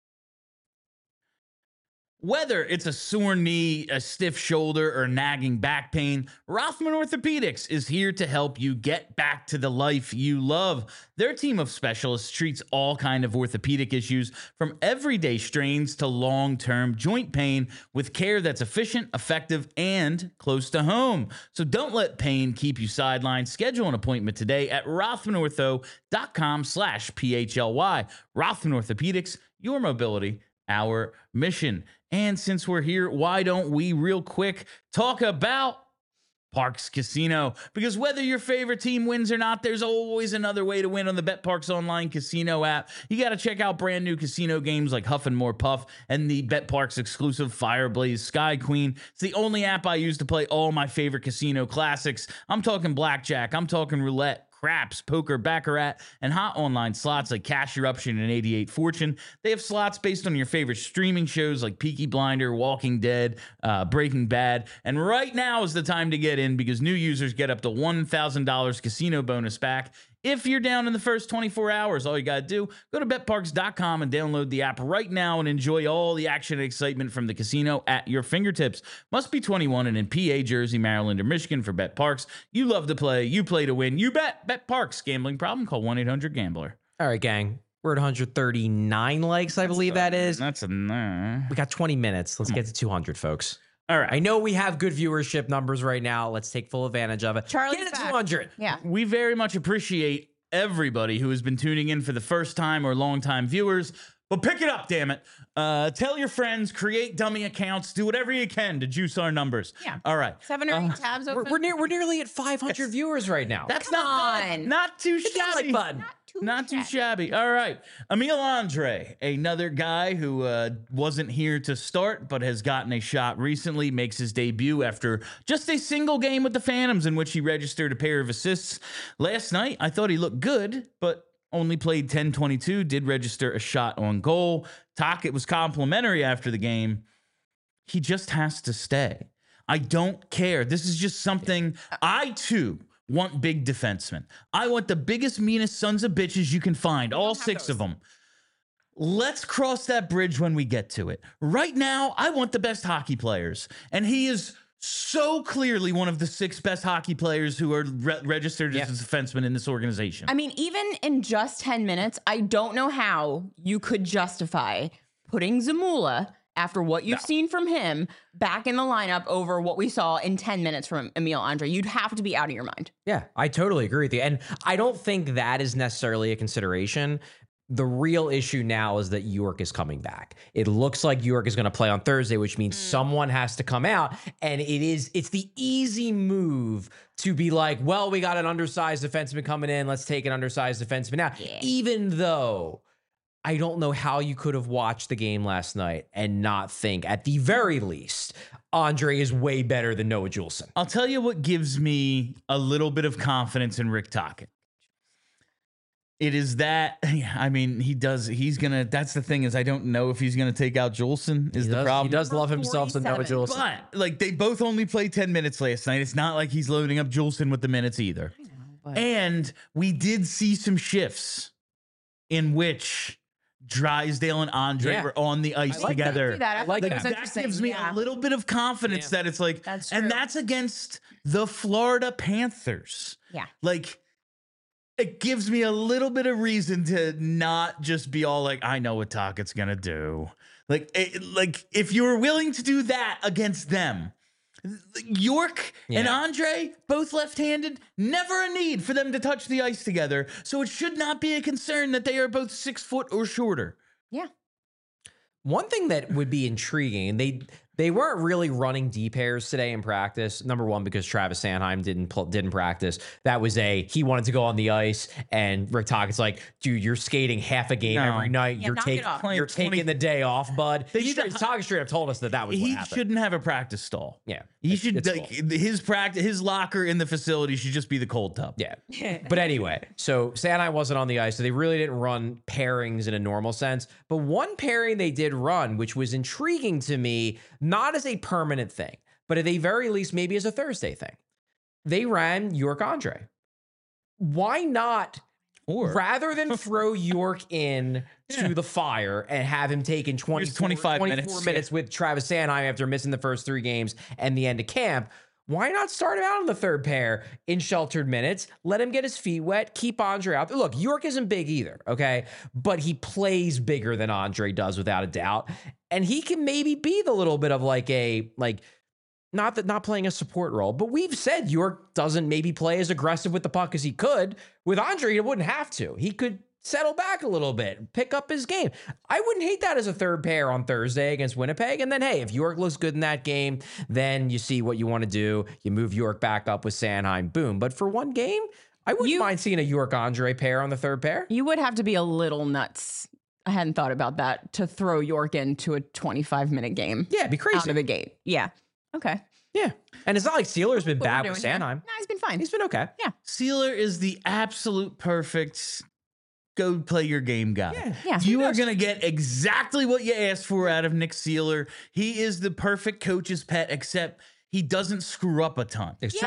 Whether it's a sore knee, a stiff shoulder, or nagging back pain, Rothman Orthopedics is here to help you get back to the life you love. Their team of specialists treats all kinds of orthopedic issues, from everyday strains to long-term joint pain, with care that's efficient, effective, and close to home. So don't let pain keep you sidelined. Schedule an appointment today at rothmanortho.com/PHLY. Rothman Orthopedics, your mobility, our mission. And since we're here, why don't we real quick talk about Parx Casino? Because whether your favorite team wins or not, there's always another way to win on the BetParx online casino app. You got to check out brand new casino games like Huff and More Puff and the BetParx exclusive Fireblaze Sky Queen. It's the only app I use to play all my favorite casino classics. I'm talking blackjack, I'm talking roulette, craps, poker, baccarat, and hot online slots like Cash Eruption and 88 Fortune. They have slots based on your favorite streaming shows like Peaky Blinder, Walking Dead, Breaking Bad. And right now is the time to get in because new users get up to $1,000 casino bonus back. If you're down in the first 24 hours, all you got to do, go to betparx.com and download the app right now and enjoy all the action and excitement from the casino at your fingertips. Must be 21 and in PA, Jersey, Maryland, or Michigan for BetParx. You love to play. You play to win. You bet. BetParx. Gambling problem? Call 1-800-GAMBLER. All right, gang. We're at 139 likes, I believe that is. That's a... We got 20 minutes. Let's get to 200, folks. All right. I know we have good viewership numbers right now. Let's take full advantage of it. Charlie's get to back. 200. Yeah. We very much appreciate everybody who has been tuning in for the first time or long-time viewers. But pick it up, damn it. Tell your friends, create dummy accounts, do whatever you can to juice our numbers. Yeah. All right. 7 or 8 tabs open. We're nearly at 500 viewers right now. That's Come not bad. on. Not too Hit that shabby. like button. Not too shabby. All right. Emil Andre, another guy who wasn't here to start but has gotten a shot recently, makes his debut after just a single game with the Phantoms in which he registered a pair of assists. Last night, I thought he looked good, but only played 10-22, did register a shot on goal. Tocchet was complimentary after the game. He just has to stay. I don't care. This is just something I, too, want big defensemen. I want the biggest, meanest sons of bitches you can find, all 6 of them. Let's cross that bridge when we get to it. Right now, I want the best hockey players. And he is so clearly one of the 6 best hockey players who are registered as a defenseman in this organization. I mean, even in just 10 minutes, I don't know how you could justify putting Zamula after what you've seen from him back in the lineup over what we saw in 10 minutes from Emil Andre. You'd have to be out of your mind. Yeah, I totally agree with you. And I don't think that is necessarily a consideration. The real issue now is that York is coming back. It looks like York is going to play on Thursday, which means someone has to come out. And it's the easy move to be like, well, we got an undersized defenseman coming in. Let's take an undersized defenseman out. Yeah. Even though I don't know how you could have watched the game last night and not think, at the very least, Andre is way better than Noah Juleson. I'll tell you what gives me a little bit of confidence in Rick Tocchet. It is that, I mean, he's going to, that's the thing is I don't know if he's going to take out Juleson is the problem. He does love himself some Noah Juleson. But, like, they both only played 10 minutes last night. It's not like he's loading up Juleson with the minutes either. I know, but... And we did see some shifts in which Drysdale and Andre were on the ice together. That gives me a little bit of confidence that it's like, and that's against the Florida Panthers. Yeah. Like, it gives me a little bit of reason to not just be all like, I know what Tocchet's going to do. Like, if you were willing to do that against them, York and Andre, both left-handed, never a need for them to touch the ice together. So it should not be a concern that they are both 6 foot or shorter. Yeah. One thing that would be intriguing, they weren't really running D pairs today in practice. Number one, because Travis Sanheim didn't practice. That was he wanted to go on the ice, and Rick Tocchet's like, dude, you're skating half a game every night. You're taking the day off, bud. Tocchet straight up told us that was what happened. He shouldn't have a practice stall. Yeah. He should, his locker in the facility should just be the cold tub. Yeah. But anyway, so Sanheim wasn't on the ice, so they really didn't run pairings in a normal sense. But one pairing they did run, which was intriguing to me, not as a permanent thing, but at the very least, maybe as a Thursday thing. They ran York Andre. Why not, rather than throw York in to the fire and have him taken 24 minutes with Travis Sanheim after missing the first 3 games and the end of camp, why not start him out in the third pair in sheltered minutes? Let him get his feet wet. Keep Andre out. Look, York isn't big either, okay? But he plays bigger than Andre does without a doubt. And he can maybe be the little bit of not playing a support role, but we've said York doesn't maybe play as aggressive with the puck as he could. With Andre, he wouldn't have to. He could settle back a little bit, pick up his game. I wouldn't hate that as a third pair on Thursday against Winnipeg. And then, hey, if York looks good in that game, then you see what you want to do. You move York back up with Sanheim, boom. But for one game, I wouldn't mind seeing a York-Andre pair on the third pair. You would have to be a little nuts. I hadn't thought about that, to throw York into a 25-minute game. Yeah, it'd be crazy. Out of the gate. Yeah. Okay. Yeah. And it's not like Sealer's been bad with Sanheim. No, he's been fine. He's been okay. Yeah. Sealer is the absolute perfect go play your game guy. Yeah. You are going to get exactly what you asked for out of Nick Sealer. He is the perfect coach's pet, except he doesn't screw up a ton. It's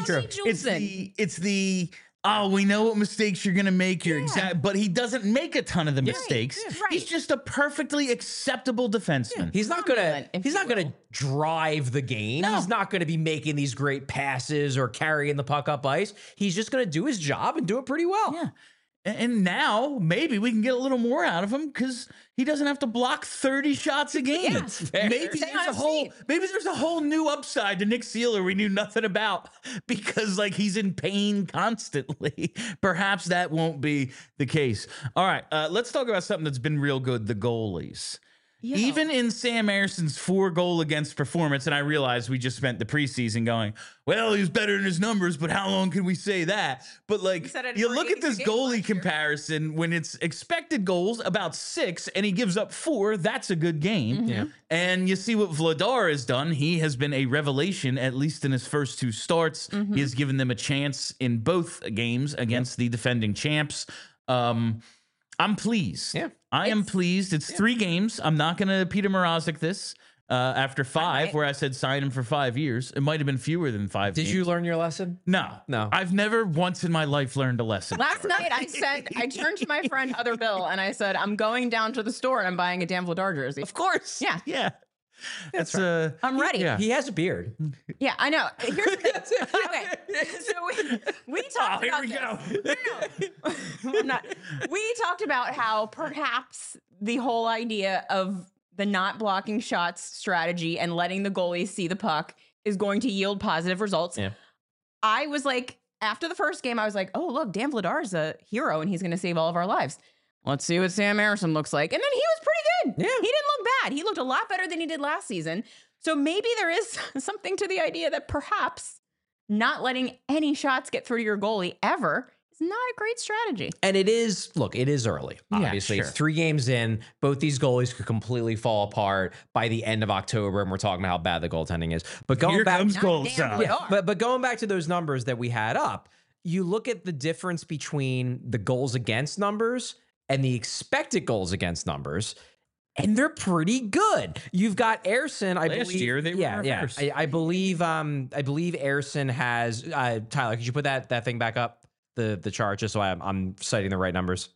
the we know what mistakes you're going to make here. But he doesn't make a ton of the mistakes. Yeah, right. He's just a perfectly acceptable defenseman. Yeah. He's not going to drive the game. No. He's not going to be making these great passes or carrying the puck up ice. He's just going to do his job and do it pretty well. Yeah. And now maybe we can get a little more out of him because he doesn't have to block 30 shots a game. Maybe there's a whole new upside to Nick Sealer we knew nothing about because he's in pain constantly. Perhaps that won't be the case. All right, let's talk about something that's been real good, the goalies. Yeah. Even in Sam Erson's 4-goal against performance, and I realize we just spent the preseason going, well, he was better in his numbers, but how long can we say that? But you look at this goalie comparison, when it's expected goals about 6 and he gives up 4, that's a good game. Mm-hmm. Yeah. And you see what Vladar has done. He has been a revelation, at least in his first 2 starts. Mm-hmm. He has given them a chance in both games against the defending champs. I'm pleased. Yeah. I am pleased. It's 3 games. I'm not going to Peter Mrazek this after 5, where I said sign him for 5 years. It might have been fewer than 5 Did games. you learn your lesson? No. I've never once in my life learned a lesson. Last night I turned to my friend Other Bill and I said, I'm going down to the store and I'm buying a Dan Vladar jersey. Of course. Yeah. Yeah. That's right. I'm ready. Yeah. He has a beard. Yeah, I know. Here's the thing. Okay, so we talked about this. No, I'm not. We talked about how perhaps the whole idea of the not blocking shots strategy and letting the goalies see the puck is going to yield positive results. Yeah. I was like, after the first game, I was like, oh, look, Dan Vladar is a hero and he's going to save all of our lives. Let's see what Sam Ersson looks like. And then he was pretty good. Yeah. He didn't look bad. He looked a lot better than he did last season. So maybe there is something to the idea that perhaps not letting any shots get through to your goalie ever is not a great strategy. And it is early. Yeah, Obviously, sure. it's 3 games in. Both these goalies could completely fall apart by the end of October, and we're talking about how bad the goaltending is. But going Here back, comes Dan Kolosov. Vladar. but going back to those numbers that we had up, you look at the difference between the goals against numbers and the expected goals against numbers, and they're pretty good. You've got Ersson, I Last believe. year, they were reversed. I believe Ersson has Tyler, could you put that thing back up? The chart, just so I'm citing the right numbers.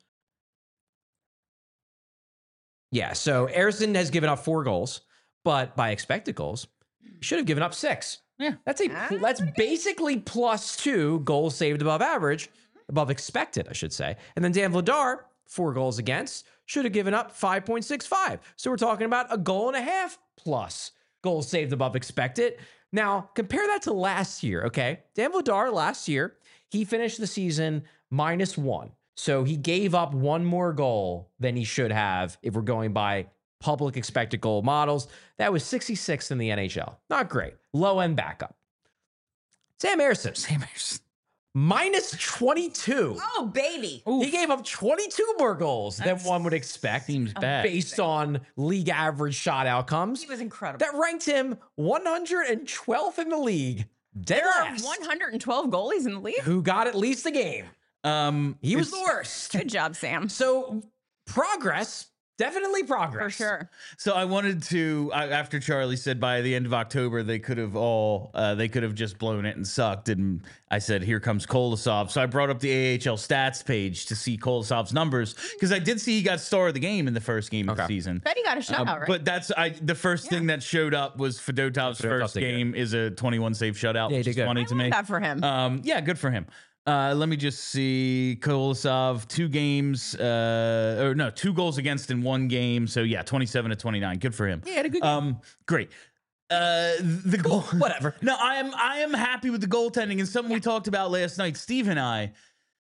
Yeah, so Ersson has given up 4 goals, but by expected goals, he should have given up 6. Yeah. That's basically +2 goals saved above average, above expected, I should say. And then Dan Vladar, 4 goals against, should have given up 5.65. So we're talking about a goal and a half plus goals saved above expected. Now, compare that to last year, okay? Dan Vladar last year, he finished the season -1. So he gave up 1 more goal than he should have if we're going by public expected goal models. That was 66th in the NHL. Not great. Low end backup. Sam Ersson, -22. Oh, baby. He gave up 22 more goals than one would expect. Seems bad. Based on league average shot outcomes. He was incredible. That ranked him 112th in the league. Dead There are last. 112 goalies in the league. Who got at least a game. He was It's- the worst. Good job, Sam. So progress, definitely progress. For sure. So I wanted to, after Charlie said by the end of October they could have just blown it and sucked, and I said here comes Kolosov. So I brought up the AHL stats page to see Kolosov's numbers because I did see he got star of the game in the first game of the season. Bet he got a shutout, right? But the first thing that showed up was Fedotov's first did good. game is a 21 save shutout, he which did is good. funny I to love me. that for him. Yeah, good for him. Let me just see. Kolosov, 2 games, 2 goals against in 1 game. So yeah, 27-29. Good for him. Yeah, he had a good game. Great. The goal, whatever. No, I am happy with the goaltending, and something we talked about last night, Steve and I.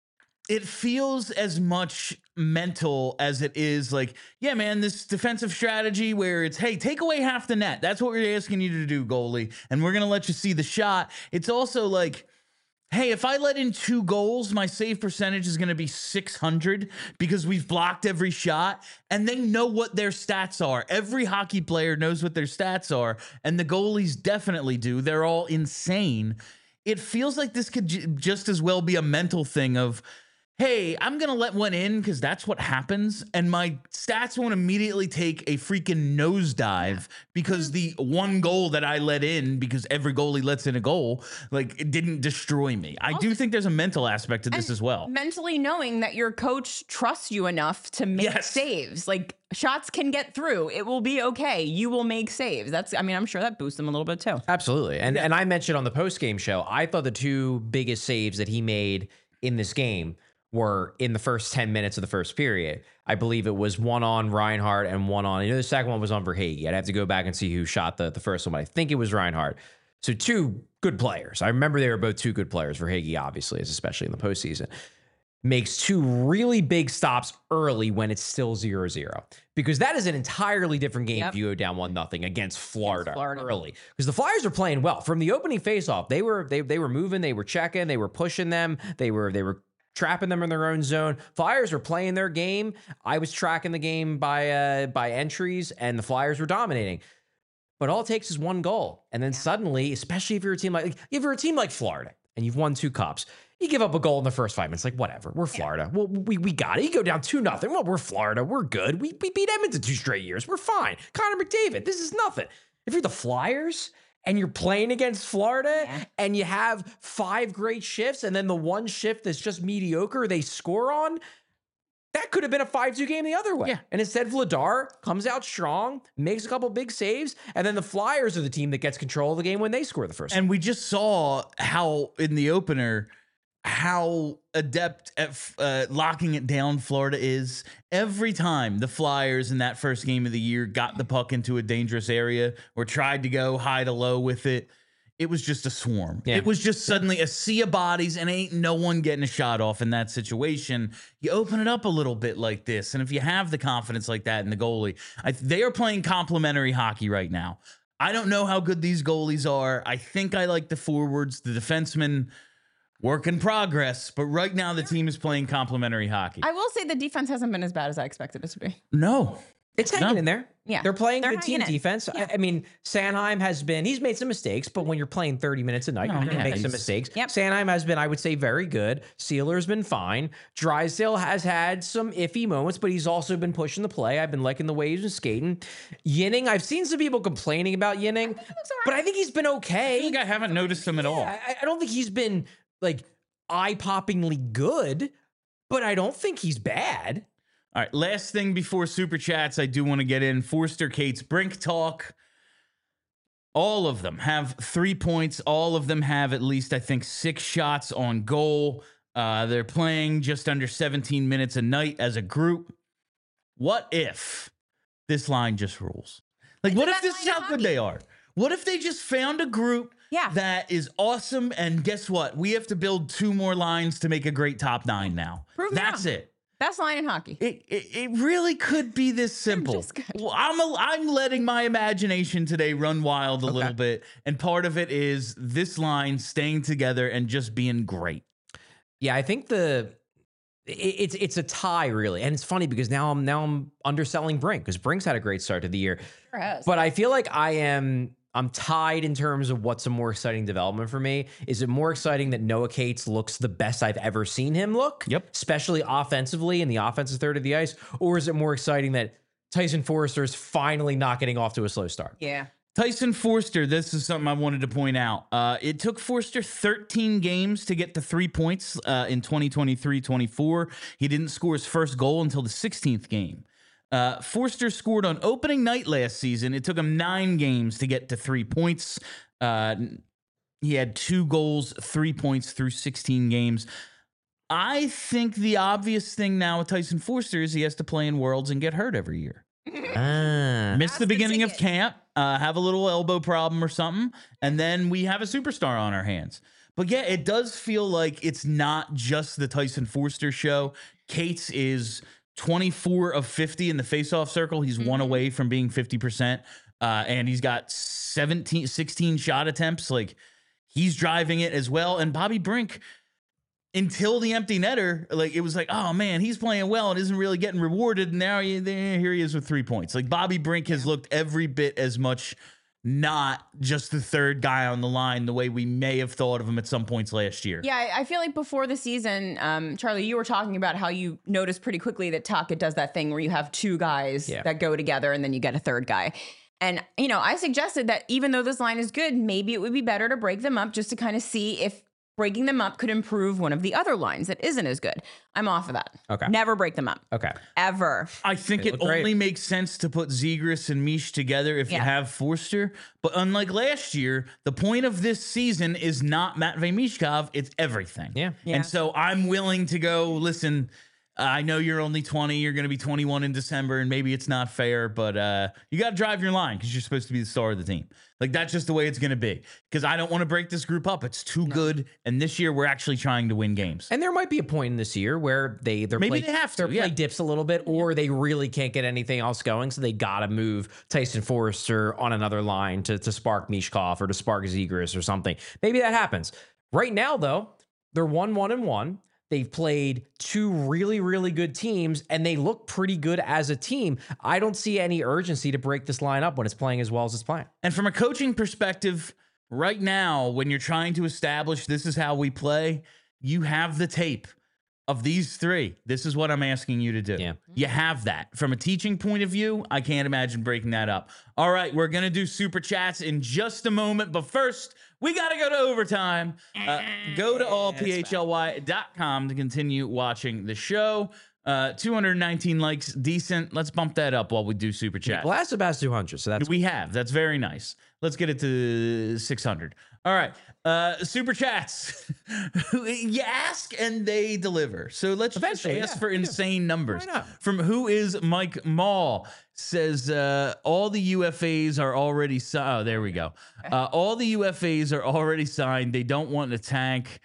It feels as much mental as it is like, yeah, man, this defensive strategy where it's, hey, take away half the net. That's what we're asking you to do, goalie, and we're gonna let you see the shot. It's also like, hey, if I let in 2 goals, my save percentage is going to be 600 because we've blocked every shot, and they know what their stats are. Every hockey player knows what their stats are, and the goalies definitely do. They're all insane. It feels like this could just as well be a mental thing of, hey, I'm going to let one in because that's what happens, and my stats won't immediately take a freaking nosedive because the 1 goal that I let in, because every goalie lets in a goal, like, it didn't destroy me. I do think there's a mental aspect to this as well. Mentally knowing that your coach trusts you enough to make saves. Like, shots can get through. It will be okay. You will make saves. I'm sure that boosts him a little bit too. Absolutely. And I mentioned on the post-game show, I thought the 2 biggest saves that he made in this game were in the first 10 minutes of the first period. I believe it was one on Reinhart and one on, the second one was on Verhaeghe. I'd have to go back and see who shot the first one, but I think it was Reinhart. So 2 good players. I remember they were both 2 good players. Verhaeghe obviously is, especially in the postseason. Makes 2 really big stops early when it's still 0-0. Because that is an entirely different game if you go down 1-0 against Florida early. Because the Flyers are playing well. From the opening faceoff, they were moving, they were checking, they were pushing them, they were trapping them in their own zone. Flyers were playing their game. I was tracking the game by entries, and the Flyers were dominating. But all it takes is 1 goal, and then suddenly, especially if you're a team like Florida and you've won 2 cups, you give up a goal in the first 5 minutes. Like, whatever, we're Florida. Well, we got it. You go down 2-0. Well, we're Florida. We're good. We beat Edmonton 2 straight years. We're fine. Connor McDavid. This is nothing. If you're the Flyers and you're playing against Florida and you have 5 great shifts and then the 1 shift that's just mediocre they score on, that could have been a 5-2 game the other way. Yeah. And instead, Vladar comes out strong, makes a couple big saves, and then the Flyers are the team that gets control of the game when they score the first. And we just saw how in the opener, how adept at locking it down Florida is. Every time the Flyers in that first game of the year got the puck into a dangerous area or tried to go high to low with it, it was just a swarm. Yeah. It was just suddenly a sea of bodies and ain't no one getting a shot off in that situation. You open it up a little bit like this, and if you have the confidence like that in the goalie, they are playing complementary hockey right now. I don't know how good these goalies are. I think I like the forwards, the defensemen, work in progress, but right now the team is playing complementary hockey. I will say the defense hasn't been as bad as I expected it to be. No. It's hanging in there. Yeah. They're playing They're good team hanging in. defense. Yeah. I mean, Sanheim he's made some mistakes, but when you're playing 30 minutes a night, you're going to make some mistakes. Yep. Sanheim has been, I would say, very good. Sealer's been fine. Drysdale has had some iffy moments, but he's also been pushing the play. I've been liking the way he's been skating. Yinning, I've seen some people complaining about Yinning, but I think he's been okay. I think I haven't noticed him at all. I don't think he's been like eye-poppingly good, but I don't think he's bad. All right, last thing before Super Chats, I do want to get in Forster Cates Brink talk. All of them have 3 points. All of them have at least, I think, 6 shots on goal. They're playing just under 17 minutes a night as a group. What if this line just rules? Like, what if this is how good they are? What if they just found a group that is awesome, and guess what? We have to build 2 more lines to make a great top 9 now. That's it. Best line in hockey. It really could be this simple. Just good. Well, I'm letting my imagination today run wild a little bit, and part of it is this line staying together and just being great. Yeah, I think it's a tie really, and it's funny because now I'm underselling Brink because Brink's had a great start to the year, Sure has. but I feel like I'm tied in terms of what's a more exciting development for me. Is it more exciting that Noah Cates looks the best I've ever seen him look? Yep. Especially offensively in the offensive third of the ice, or is it more exciting that Tyson Forster is finally not getting off to a slow start? Yeah. Tyson Forster, this is something I wanted to point out. It took Forster 13 games to get to 3 points in 2023-24. He didn't score his first goal until the 16th game. Forster scored on opening night last season. It took him 9 games to get to 3 points. He had 2 goals, 3 points through 16 games. I think the obvious thing now with Tyson Forster is he has to play in Worlds and get hurt every year. Miss the beginning of camp, have a little elbow problem or something, and then we have a superstar on our hands. But yeah, it does feel like it's not just the Tyson Forster show. Cates is 24 of 50 in the faceoff circle. He's 1 away from being 50%. And he's got 16 shot attempts. Like, he's driving it as well. And Bobby Brink, until the empty netter, like, it was like, oh man, he's playing well and isn't really getting rewarded. And now here he is with 3 points. Like, Bobby Brink has looked every bit as much not just the third guy on the line the way we may have thought of him at some points last year. Yeah, I feel like before the season, Charlie, you were talking about how you noticed pretty quickly that Taka does that thing where you have 2 guys that go together and then you get a third guy. And, you know, I suggested that even though this line is good, maybe it would be better to break them up just to kind of see if breaking them up could improve one of the other lines that isn't as good. I'm off of that. Okay. Never break them up. Okay. Ever. I think it only makes sense to put Zegras and Mish together if you have Forster. But unlike last year, the point of this season is not Matvei Mishkov, it's everything. Yeah. And so I'm willing to go, listen, I know you're only 20, you're going to be 21 in December, and maybe it's not fair, but you got to drive your line because you're supposed to be the star of the team. Like, that's just the way it's going to be, because I don't want to break this group up. It's too good, and this year we're actually trying to win games. And there might be a point in this year where their Maybe they have to, play dips a little bit, or they really can't get anything else going, so they got to move Tyson Forster on another line to spark Mishkov or to spark Zegras or something. Maybe that happens. Right now, though, they're 1-1-1. They've played 2 really, really good teams, and they look pretty good as a team. I don't see any urgency to break this line up when it's playing as well as it's playing. And from a coaching perspective, right now, when you're trying to establish this is how we play, you have the tape of these 3. This is what I'm asking you to do. Yeah. You have that. From a teaching point of view, I can't imagine breaking that up. All right, we're going to do Super Chats in just a moment, but first, we got to go to overtime. Go to allphly.com to continue watching the show. 219 likes, decent. Let's bump that up while we do Super Chat. Last about 200, so that's We have. That's very nice. Let's get it to 600. All right. Super chats. You ask and they deliver. So let's just Eventually, ask yeah, for we do. insane numbers. Why not? From Who Is Mike Mall says all the UFAs are already signed. Oh, there we go. All the UFAs are already signed. They don't want to tank.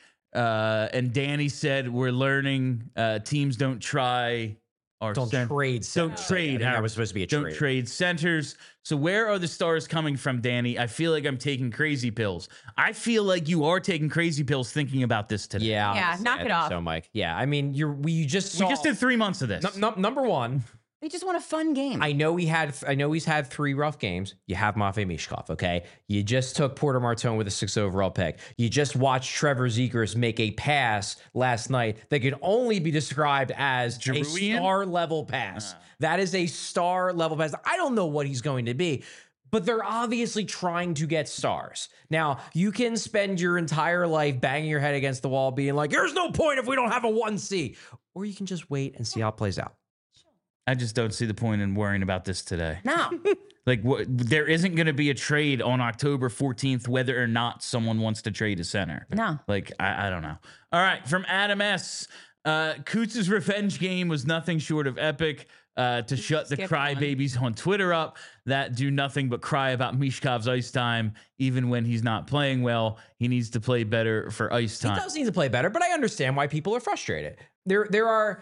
And Danny said we're learning teams don't try or Don't trade. Don't centers. trade. I think that was supposed to be a Don't trade. trade centers. So where are the stars coming from, Danny? I feel like I'm taking crazy pills. I feel like you are taking crazy pills thinking about this today. Yeah. Yeah, honestly, knock I it think off. So, Mike. Yeah. I mean, we just saw. We just did 3 months of this. Number one. They just want a fun game. I know he's had 3 rough games. You have Matvei Mishkov, okay? You just took Porter Martone with a 6th overall pick. You just watched Trevor Zegras make a pass last night that could only be described as a Giroudian? star-level pass. That is a star-level pass. I don't know what he's going to be, but they're obviously trying to get stars. Now, you can spend your entire life banging your head against the wall being like, there's no point if we don't have a 1C. Or you can just wait and see how it plays out. I just don't see the point in worrying about this today. no. Like, there isn't going to be a trade on October 14th, whether or not someone wants to trade a center. No. Like, I don't know. All right, from Adam S. Coots' revenge game was nothing short of epic. To shut the Skip crybabies on Twitter up that do nothing but cry about Mishkov's ice time, even when he's not playing well. He needs to play better for ice time. He does need to play better, but I understand why people are frustrated. There are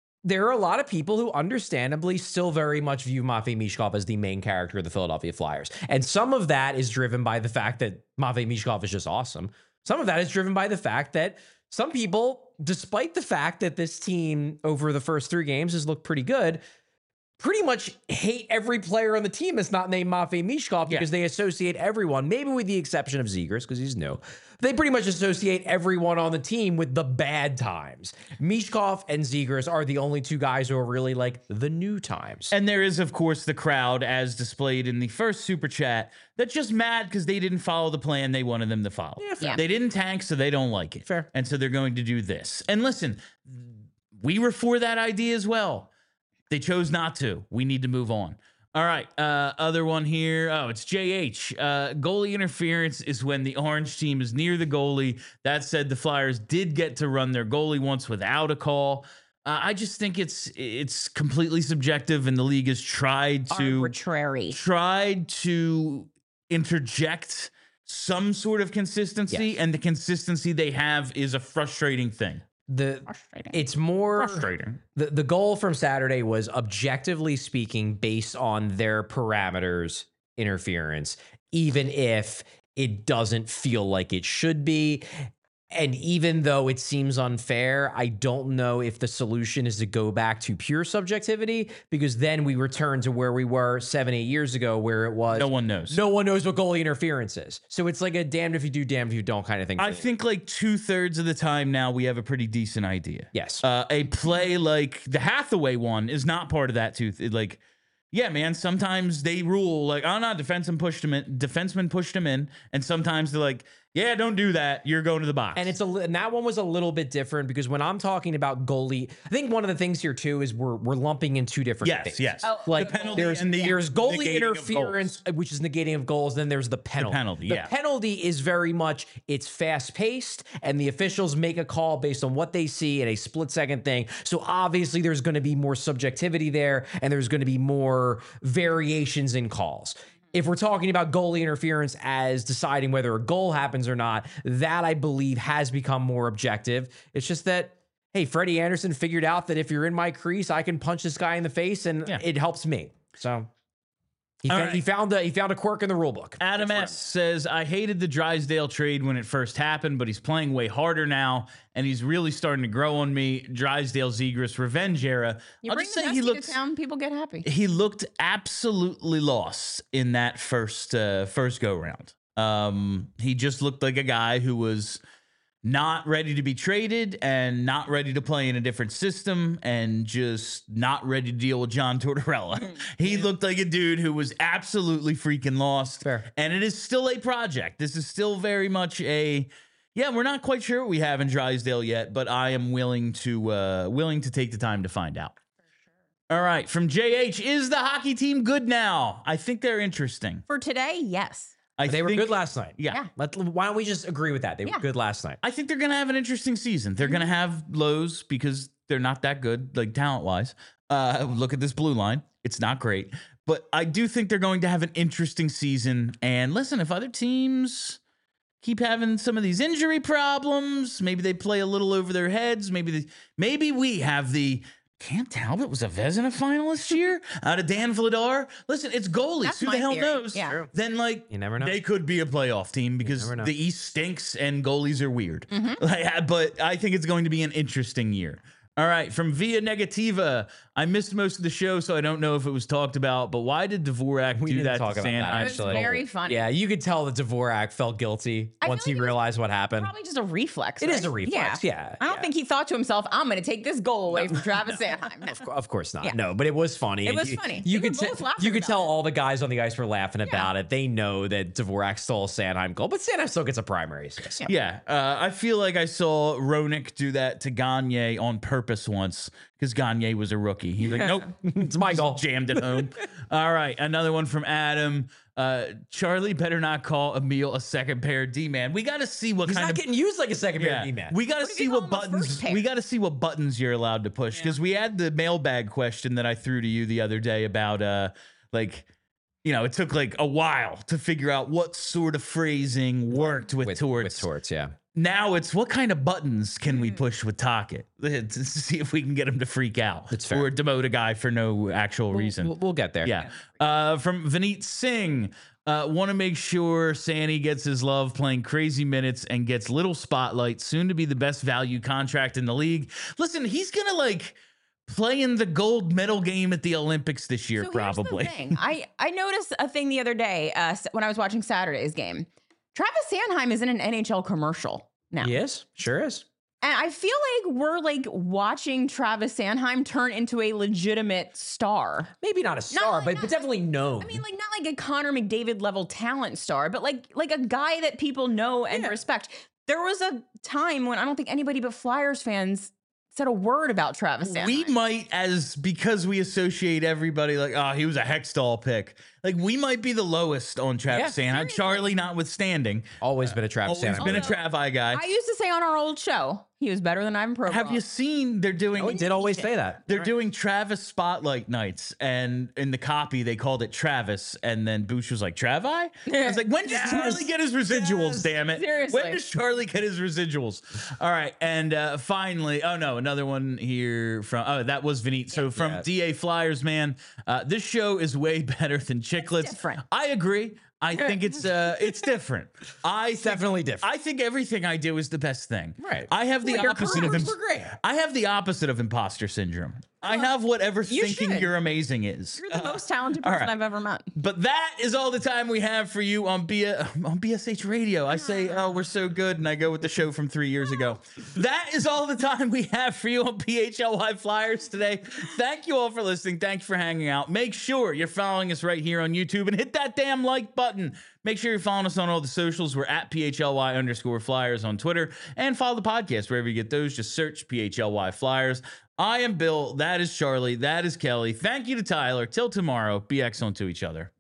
a lot of people who understandably still very much view Matvei Mishkov as the main character of the Philadelphia Flyers. And some of that is driven by the fact that Matvei Mishkov is just awesome. Some of that is driven by the fact that some people, despite the fact that this team over the first 3 games has looked pretty good, pretty much hate every player on the team that's not named Matvei Mishkov because they associate everyone, maybe with the exception of Zegras because he's new. They pretty much associate everyone on the team with the bad times. Mishkov and Zegras are the only 2 guys who are really like the new times. And there is, of course, the crowd, as displayed in the first super chat, that's just mad because they didn't follow the plan they wanted them to follow. fair. They didn't tank, so they don't like it. Fair. And so they're going to do this. And listen, we were for that idea as well. They chose not to. We need to move on. All right. Other one here. Oh, it's JH. Goalie interference is when the orange team is near the goalie. That said, the Flyers did get to run their goalie once without a call. I just think it's completely subjective, and the league has tried to interject some sort of consistency, Yes. and the consistency they have is a frustrating thing. It's more Frustrating. The goal from Saturday was, objectively speaking, based on their parameters, interference, even if it doesn't feel like it should be. And even though it seems unfair, I don't know if the solution is to go back to pure subjectivity, because then we return to where we were 7-8 years ago, where it was No one knows. no one knows what goalie interference is. So it's like a damned if you do, damned if you don't kind of thing. I think like 2/3 of the time now we have a pretty decent idea. Yes. A play like the Hathaway one is not part of that tooth. Like, yeah, man, sometimes they rule like, oh no, defenseman pushed him in. And sometimes they're like, yeah, don't do that. You're going to the box. And and that one was a little bit different, because when I'm talking about goalie, I think one of the things here too is we're lumping in 2 different things. Yes. Like The penalty there's and the goalie negating of interference, which is negating of goals. Then there's the penalty. penalty, The penalty is very much, it's fast paced, and the officials make a call based on what they see in a split second thing. So obviously there's going to be more subjectivity there, and there's going to be more variations in calls. If we're talking about goalie interference as deciding whether a goal happens or not, that I believe has become more objective. It's just that, hey, Freddie Anderson figured out that if you're in my crease, I can punch this guy in the face, and it helps me. So he found a quirk in the rule book. Adam S. says, I hated the Drysdale trade when it first happened, but he's playing way harder now, and he's really starting to grow on me. Drysdale Zegras revenge era. You bring the Dusty to town, people get happy. He looked absolutely lost in that first go round. He just looked like a guy who was not ready to be traded and not ready to play in a different system and just not ready to deal with John Tortorella. He looked like a dude who was absolutely freaking lost. Fair. And it is still a project. This is still very much we're not quite sure what we have in Drysdale yet, but I am willing to take the time to find out. All right, from JH, is the hockey team good now? I think they're interesting. For today, yes. They were good last night. Yeah. Why don't we just agree with that? They were good last night. I think they're going to have an interesting season. They're going to have lows because they're not that good, like talent-wise. Look at this blue line. It's not great. But I do think they're going to have an interesting season. And listen, if other teams keep having some of these injury problems, maybe they play a little over their heads. Maybe we have the Cam Talbot was a Vezina finalist year out of Dan Vladar. Listen, it's goalies. That's Who the my hell theory. knows? Yeah. Then, like, You never know. they could be a playoff team because never know. the East stinks and goalies are weird. But I think it's going to be an interesting year. All right, from Via Negativa, I missed most of the show, so I don't know if it was talked about, but why did Dvorak do that to Sanheim? It was very funny. Yeah, you could tell that Dvorak felt guilty once he realized what happened. Probably just a reflex. It right? is a reflex, yeah. I don't think he thought to himself, I'm going to take this goal away from Travis Sanheim. No. Of course not. Yeah. No, but it was funny. It And was funny. You They could were both laughing you could about tell it. all the guys on the ice were laughing about it. They know that Dvorak stole a Sanheim goal, but Sanheim still gets a primary assist. Yeah, I feel like I saw Roenick do that to Gagne on purpose once because Gagne was a rookie. He's like, nope, It's my goal. jammed it home. All right, another one from Adam. Charlie better not call Emil a second pair D-man. We got to see what He's kind not of getting used like a second pair D-man. We got to What if see you what call him a buttons. first pair? We got to see what buttons you're allowed to push because we had the mailbag question that I threw to you the other day about it took like a while to figure out what sort of phrasing worked with Torts. With Torts, yeah. Now it's what kind of buttons can we push with Tocchet to see if we can get him to freak out That's fair. or demote a guy for no actual reason. We'll get there. Yeah. From Vineet Singh, want to make sure Sandy gets his love playing crazy minutes and gets little spotlight, soon to be the best value contract in the league. Listen, he's going to play in the gold medal game at the Olympics this year, So probably. here's the thing. I noticed a thing the other day when I was watching Saturday's game. Travis Sanheim is in an NHL commercial now. He is. Sure is. And I feel like we're watching Travis Sanheim turn into a legitimate star. Maybe not a star, like- but definitely known. I mean, not like a Connor McDavid level talent star, but like a guy that people know and respect. There was a time when I don't think anybody but Flyers fans said a word about Travis Sanheim. We might, because we associate everybody he was a Hextall pick. We might be the lowest on Travis Sanheim. seriously. Charlie notwithstanding. Always been a Travis Always Sanheim. been a Travi guy. I used to say on our old show, he was better than Ivan Provorov. Have you seen they're doing? Oh, he did always say that. They're doing Travis Spotlight nights, and in the copy they called it Travis, and then Bush was like, Travi? I was like, when does Charlie get his residuals, damn it? Seriously. When does Charlie get his residuals? All right, and finally, another one here from, that was Vineet. So from DA Flyers, man, this show is way better than Chicklets. different. I agree. I think it's different. Definitely different. I think everything I do is the best thing. Right. I have the Well, your opposite of careers were great. I have the opposite of imposter syndrome. I have whatever thinking should. you're amazing is. You're the most talented all person right. I've ever met. But that is all the time we have for you on BSH Radio. I say, oh, we're so good, and I go with the show from 3 years ago. That is all the time we have for you on PHLY Flyers today. Thank you all for listening. Thank you for hanging out. Make sure you're following us right here on YouTube and hit that damn like button. Make sure you're following us on all the socials. We're at PHLY_Flyers on Twitter, and follow the podcast wherever you get those. Just search PHLY Flyers. I am Bill. That is Charlie. That is Kelly. Thank you to Tyler. Till tomorrow, be excellent to each other.